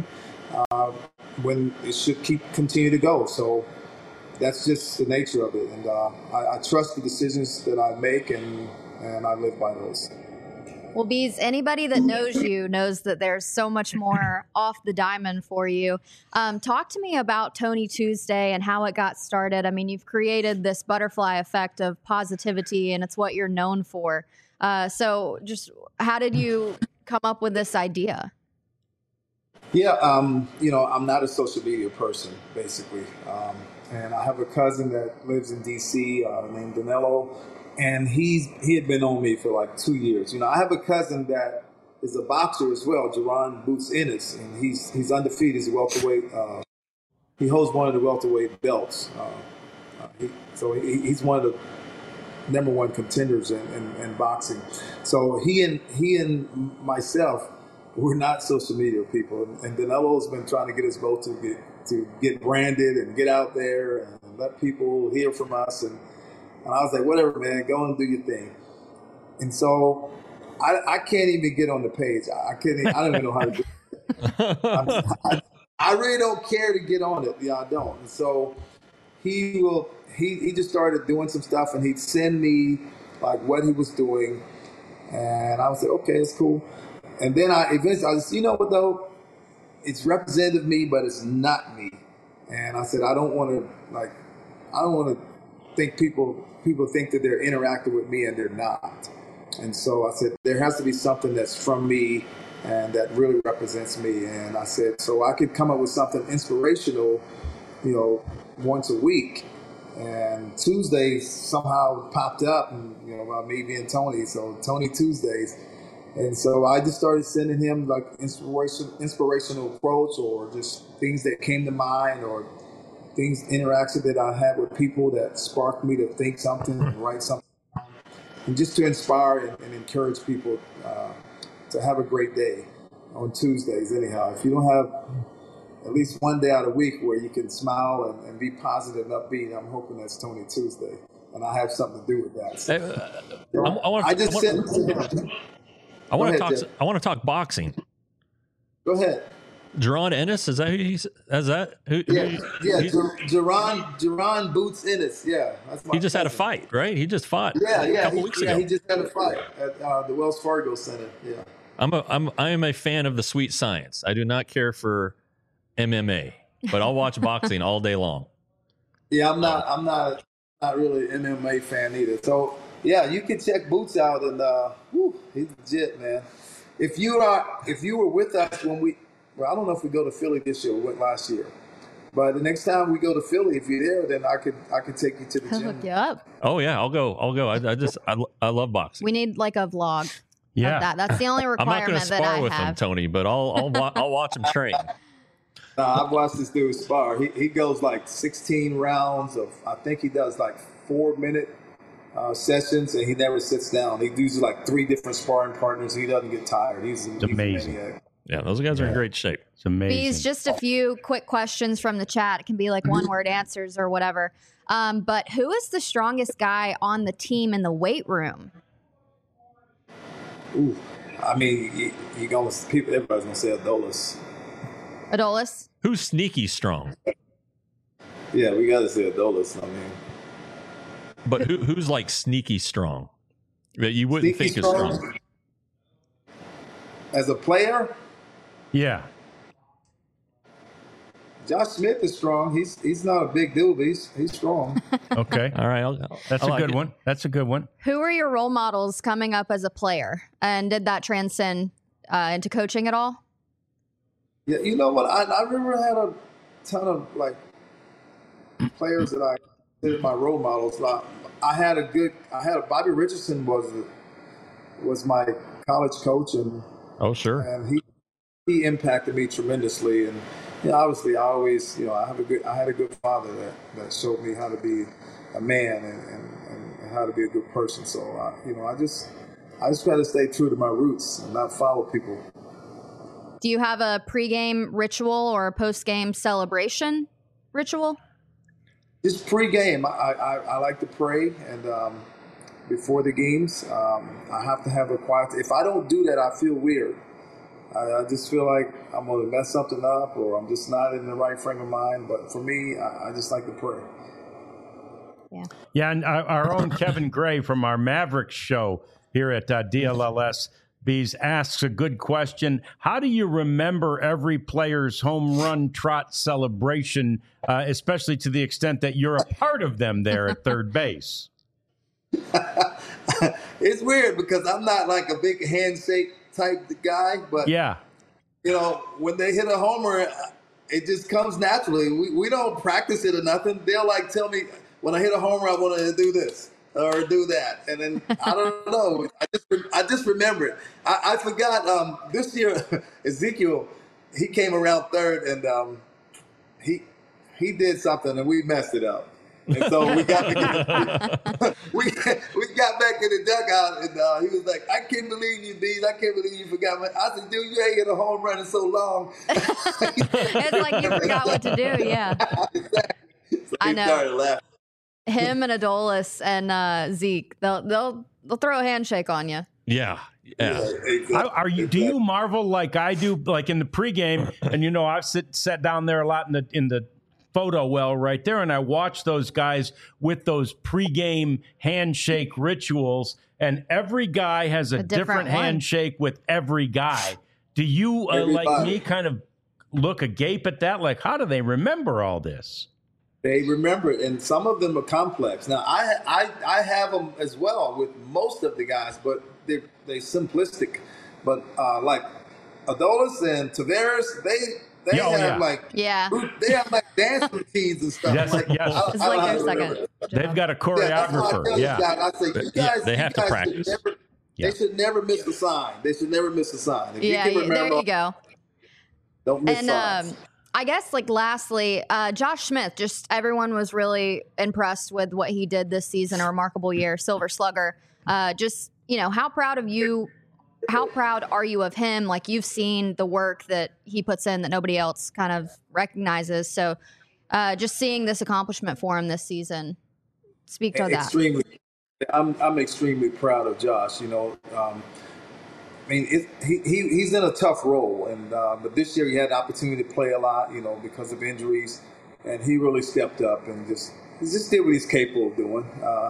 when it should continue to go. So that's just the nature of it. And I trust the decisions that I make, and I live by those. Well, Bees, anybody that knows you knows that there's so much more off the diamond for you. Talk to me about Tony Tuesday and how it got started. I mean, you've created this butterfly effect of positivity, and it's what you're known for. So just how did you come up with this idea? Yeah, I'm not a social media person, basically. And I have a cousin that lives in D.C. Named Danilo. And he had been on me for like 2 years. I have a cousin that is a boxer as well, Jaron Boots Ennis, and he's undefeated. He's a welterweight. He holds one of the welterweight belts. He's one of the number one contenders in boxing. So he and myself, we're not social media people. And Danelo's been trying to get us both to get branded and get out there and let people hear from us. And I was like, whatever, man, go and do your thing. And so I can't even get on the page. I don't even know how to do it. I really don't care to get on it. I don't. And so he just started doing some stuff, and he'd send me like what he was doing. And I was like, okay, it's cool. And then I said, you know what though? It's representative of me, but it's not me. And I said, I don't want to think people think that they're interacting with me and they're not. And so I said, there has to be something that's from me and that really represents me. And I said, so I could come up with something inspirational, once a week. And Tuesdays somehow popped up, and about me being Tony, so Tony Tuesdays. And so I just started sending him like inspirational quotes or just things that came to mind or interaction that I had with people that sparked me to think something and write something, and just to inspire and encourage people to have a great day on Tuesdays. Anyhow, if you don't have at least one day out of the week where you can smile and be positive and upbeat. I'm hoping that's Tony Tuesday, and I have something to do with that. So, I want to talk boxing. Go ahead. Jerron Ennis, is that who he's? Is that who? Jerron Boots Ennis. Yeah, that's my he just had a cousin. fight, right? He just fought. A couple weeks ago. He just had a fight at the Wells Fargo Center. Yeah. I am a fan of the sweet science. I do not care for MMA, but I'll watch boxing all day long. Yeah, I'm not really an MMA fan either. So yeah, you can check Boots out, and he's legit, man. If you were with us when I don't know if we go to Philly this year. We went last year, but the next time we go to Philly, if you're there, then I could take you to the gym. Hook you up. Oh yeah, I'll go. I love boxing. We need like a vlog. Yeah. Of that. That's the only I'm not going requirement to that spar I with have. him, Tony, but I'll watch him train. I've watched this dude spar. He goes like 16 rounds of. I think he does like 4-minute sessions, and he never sits down. He uses like 3 different sparring partners. He doesn't get tired. He's amazing. Maniac. Yeah, those guys are in great shape. It's amazing. These just a few quick questions from the chat. It can be like one-word answers or whatever. But who is the strongest guy on the team in the weight room? Ooh, I mean, everybody's gonna say Adolis. Adolis? Who's sneaky strong? Yeah, we gotta say Adolis. I mean, but who's like sneaky strong that you wouldn't think is strong? As a player, Yeah. Josh Smith is strong. He's not a big dude, but he's strong. Okay. All right, That's I a like good it. one. That's a good one. Who are your role models coming up as a player? And did that transcend into coaching at all? Yeah, you know what? I remember I had a ton of like players that I considered my role models. I had Bobby Richardson was my college coach, and Oh sure. and he impacted me tremendously. And obviously, I had a good father that showed me how to be a man and how to be a good person. So I just try to stay true to my roots and not follow people. Do you have a pregame ritual or a postgame celebration ritual? Just pregame, I like to pray, and before the games, I have to have a quiet. If I don't do that, I feel weird. I just feel like I'm going to mess something up, or I'm just not in the right frame of mind. But for me, I just like to pray. Yeah, and our own Kevin Gray from our Mavericks show here at DLLS Bees asks a good question. How do you remember every player's home run trot celebration, especially to the extent that you're a part of them there at third base? It's weird because I'm not like a big handshake type guy, but Yeah. When they hit a homer, it just comes naturally. We don't practice it or nothing. They'll like tell me when I hit a homer, I want to do this or do that, and then I don't know. I just remember it. I forgot this year Ezekiel, he came around third, and he did something, and we messed it up. And so we got back in the dugout, and he was like, "I can't believe you, Bees. I can't believe you forgot." I said, "Dude, you ain't hit a home run in so long." It's like you forgot what to do. Yeah, So I he know. started laughing. Him and Adolis and Zeke, they'll throw a handshake on you. Yeah. Exactly. Do you marvel like I do, like in the pregame? And I've sat down there a lot in the photo well right there, and I watch those guys with those pregame handshake rituals, and every guy has a different one. handshake with every guy. Do you like me kind of look agape at that? Like, how do they remember all this? They remember it, and some of them are complex. Now, I have them as well with most of the guys, but they're simplistic. But like Adolis and Tavares, they have they have like dance routines and stuff. Yes, like, yes. It's like their second. They've got a choreographer. I say, you guys, they have to practice. They should never miss a sign. They should never miss a sign. If you can remember, there you go. Don't miss signs. I guess, like, lastly, Josh Smith, just everyone was really impressed with what he did this season, a remarkable year, Silver Slugger. Just, how proud of you how proud are you of him? Like, you've seen the work that he puts in that nobody else kind of recognizes. So just seeing this accomplishment for him this season, speak to that. Extremely. I'm extremely proud of Josh. You know, I mean, he's in a tough role, and but this year he had the opportunity to play a lot, you know, because of injuries, and he really stepped up and just did what he's capable of doing.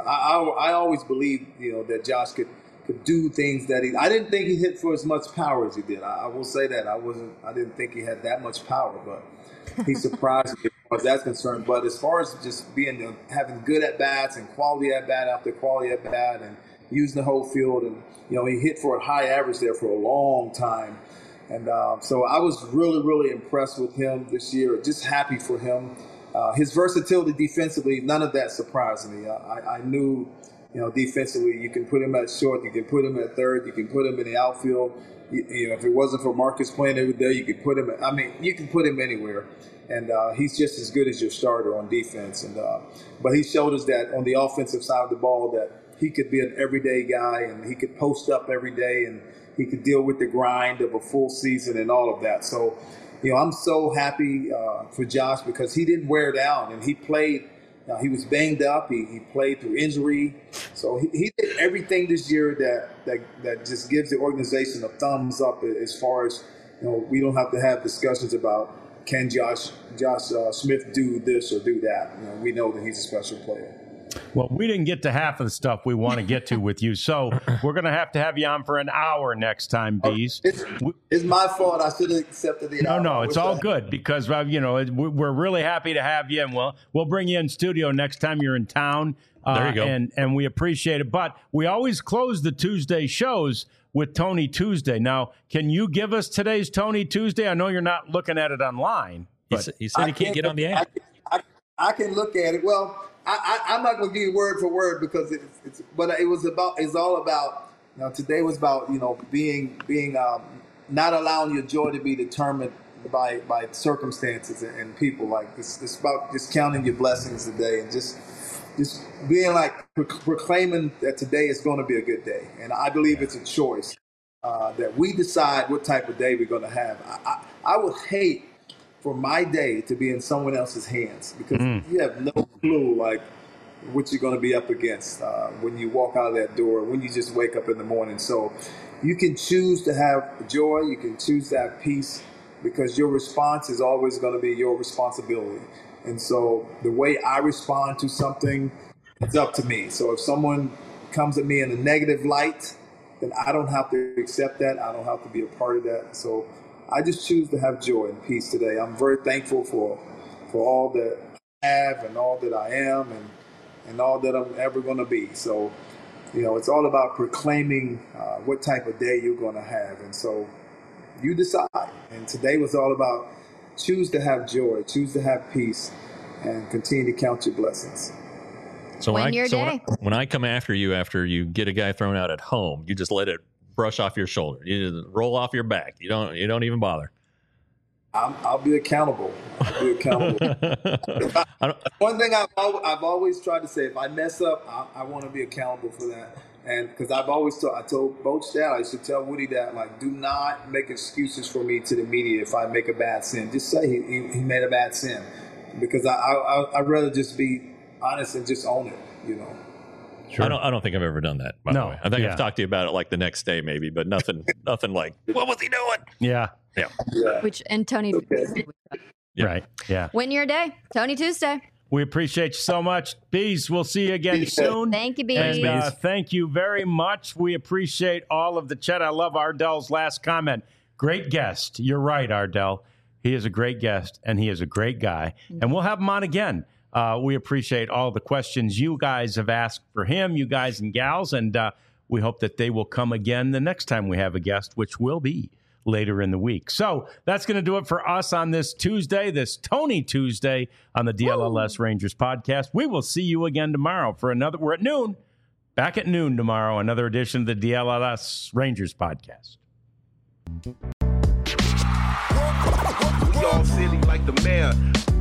I always believed, you know, that Josh could do things that I didn't think he hit for as much power as he did. I will say that I didn't think he had that much power, but he surprised me as far as that's concerned. But as far as just having good at bats and quality at bat after quality at bat and using the whole field, and you know, he hit for a high average there for a long time. And so I was really, really impressed with him this year. Just happy for him. His versatility defensively, none of that surprised me. I knew, you know, defensively, you can put him at short, you can put him at third, you can put him in the outfield. You know, if it wasn't for Marcus playing every day, you could put him. You can put him anywhere, and he's just as good as your starter on defense. And but he showed us that on the offensive side of the ball that he could be an everyday guy, and he could post up every day, and he could deal with the grind of a full season and all of that. So, you know, I'm so happy for Josh because he didn't wear down, and he played. He was banged up. He played through injury. So he did everything this year that just gives the organization a thumbs up as far as, you know, we don't have to have discussions about can Josh Smith do this or do that. You know, we know that he's a special player. Well, we didn't get to half of the stuff we want to get to with you, so we're going to have you on for an hour next time, Bees. It's my fault. I should have accepted the hour. No, it's all good because, you know, we're really happy to have you, and we'll bring you in studio next time you're in town. There you go. And we appreciate it. But we always close the Tuesday shows with Tony Tuesday. Now, can you give us today's Tony Tuesday? I know you're not looking at it online. He said he can't get on the app. I can look at it. Well, I'm not going to give you word for word because but it's all about, you know, today was about, you know, being not allowing your joy to be determined by circumstances and people. Like it's about just counting your blessings today and just being like proclaiming that today is going to be a good day. And I believe it's a choice that we decide what type of day we're going to have. I would hate for my day to be in someone else's hands because you have no clue like what you're going to be up against when you walk out of that door, when you just wake up in the morning. So you can choose to have joy, you can choose to have peace because your response is always going to be your responsibility. And so the way I respond to something, it's up to me. So if someone comes at me in a negative light, then I don't have to accept that. I don't have to be a part of that. So I just choose to have joy and peace today. I'm very thankful for all that I have and all that I am and all that I'm ever going to be. So, you know, it's all about proclaiming what type of day you're going to have. And so you decide. And today was all about choose to have joy, choose to have peace, and continue to count your blessings. So when I come after you get a guy thrown out at home, you just let it brush off your shoulder. You just roll off your back. You don't even bother. I'll be accountable. One thing I've always tried to say: if I mess up, I want to be accountable for that. And because I told Coach Dad, I should tell Woody that, like, do not make excuses for me to the media if I make a bad sin. Just say he made a bad sin, because I'd rather just be honest and just own it, you know. Sure. I don't think I've ever done that, by the way. I think I've talked to you about it like the next day maybe, but nothing like, what was he doing? Yeah. And Tony. Okay. Right. Yeah. Win your day. Tony Tuesday. We appreciate you so much. Bees, we'll see you again soon. Thank you, Bees. And thank you very much. We appreciate all of the chat. I love Ardell's last comment. Great guest. You're right, Ardell. He is a great guest, and he is a great guy. And we'll have him on again. We appreciate all the questions you guys have asked for him, you guys and gals, and we hope that they will come again the next time we have a guest, which will be later in the week. So that's going to do it for us on this Tuesday, this Tony Tuesday on the DLLS Rangers podcast. We will see you again tomorrow for another. We're at noon, back at noon tomorrow, another edition of the DLLS Rangers podcast. We all silly like the mayor.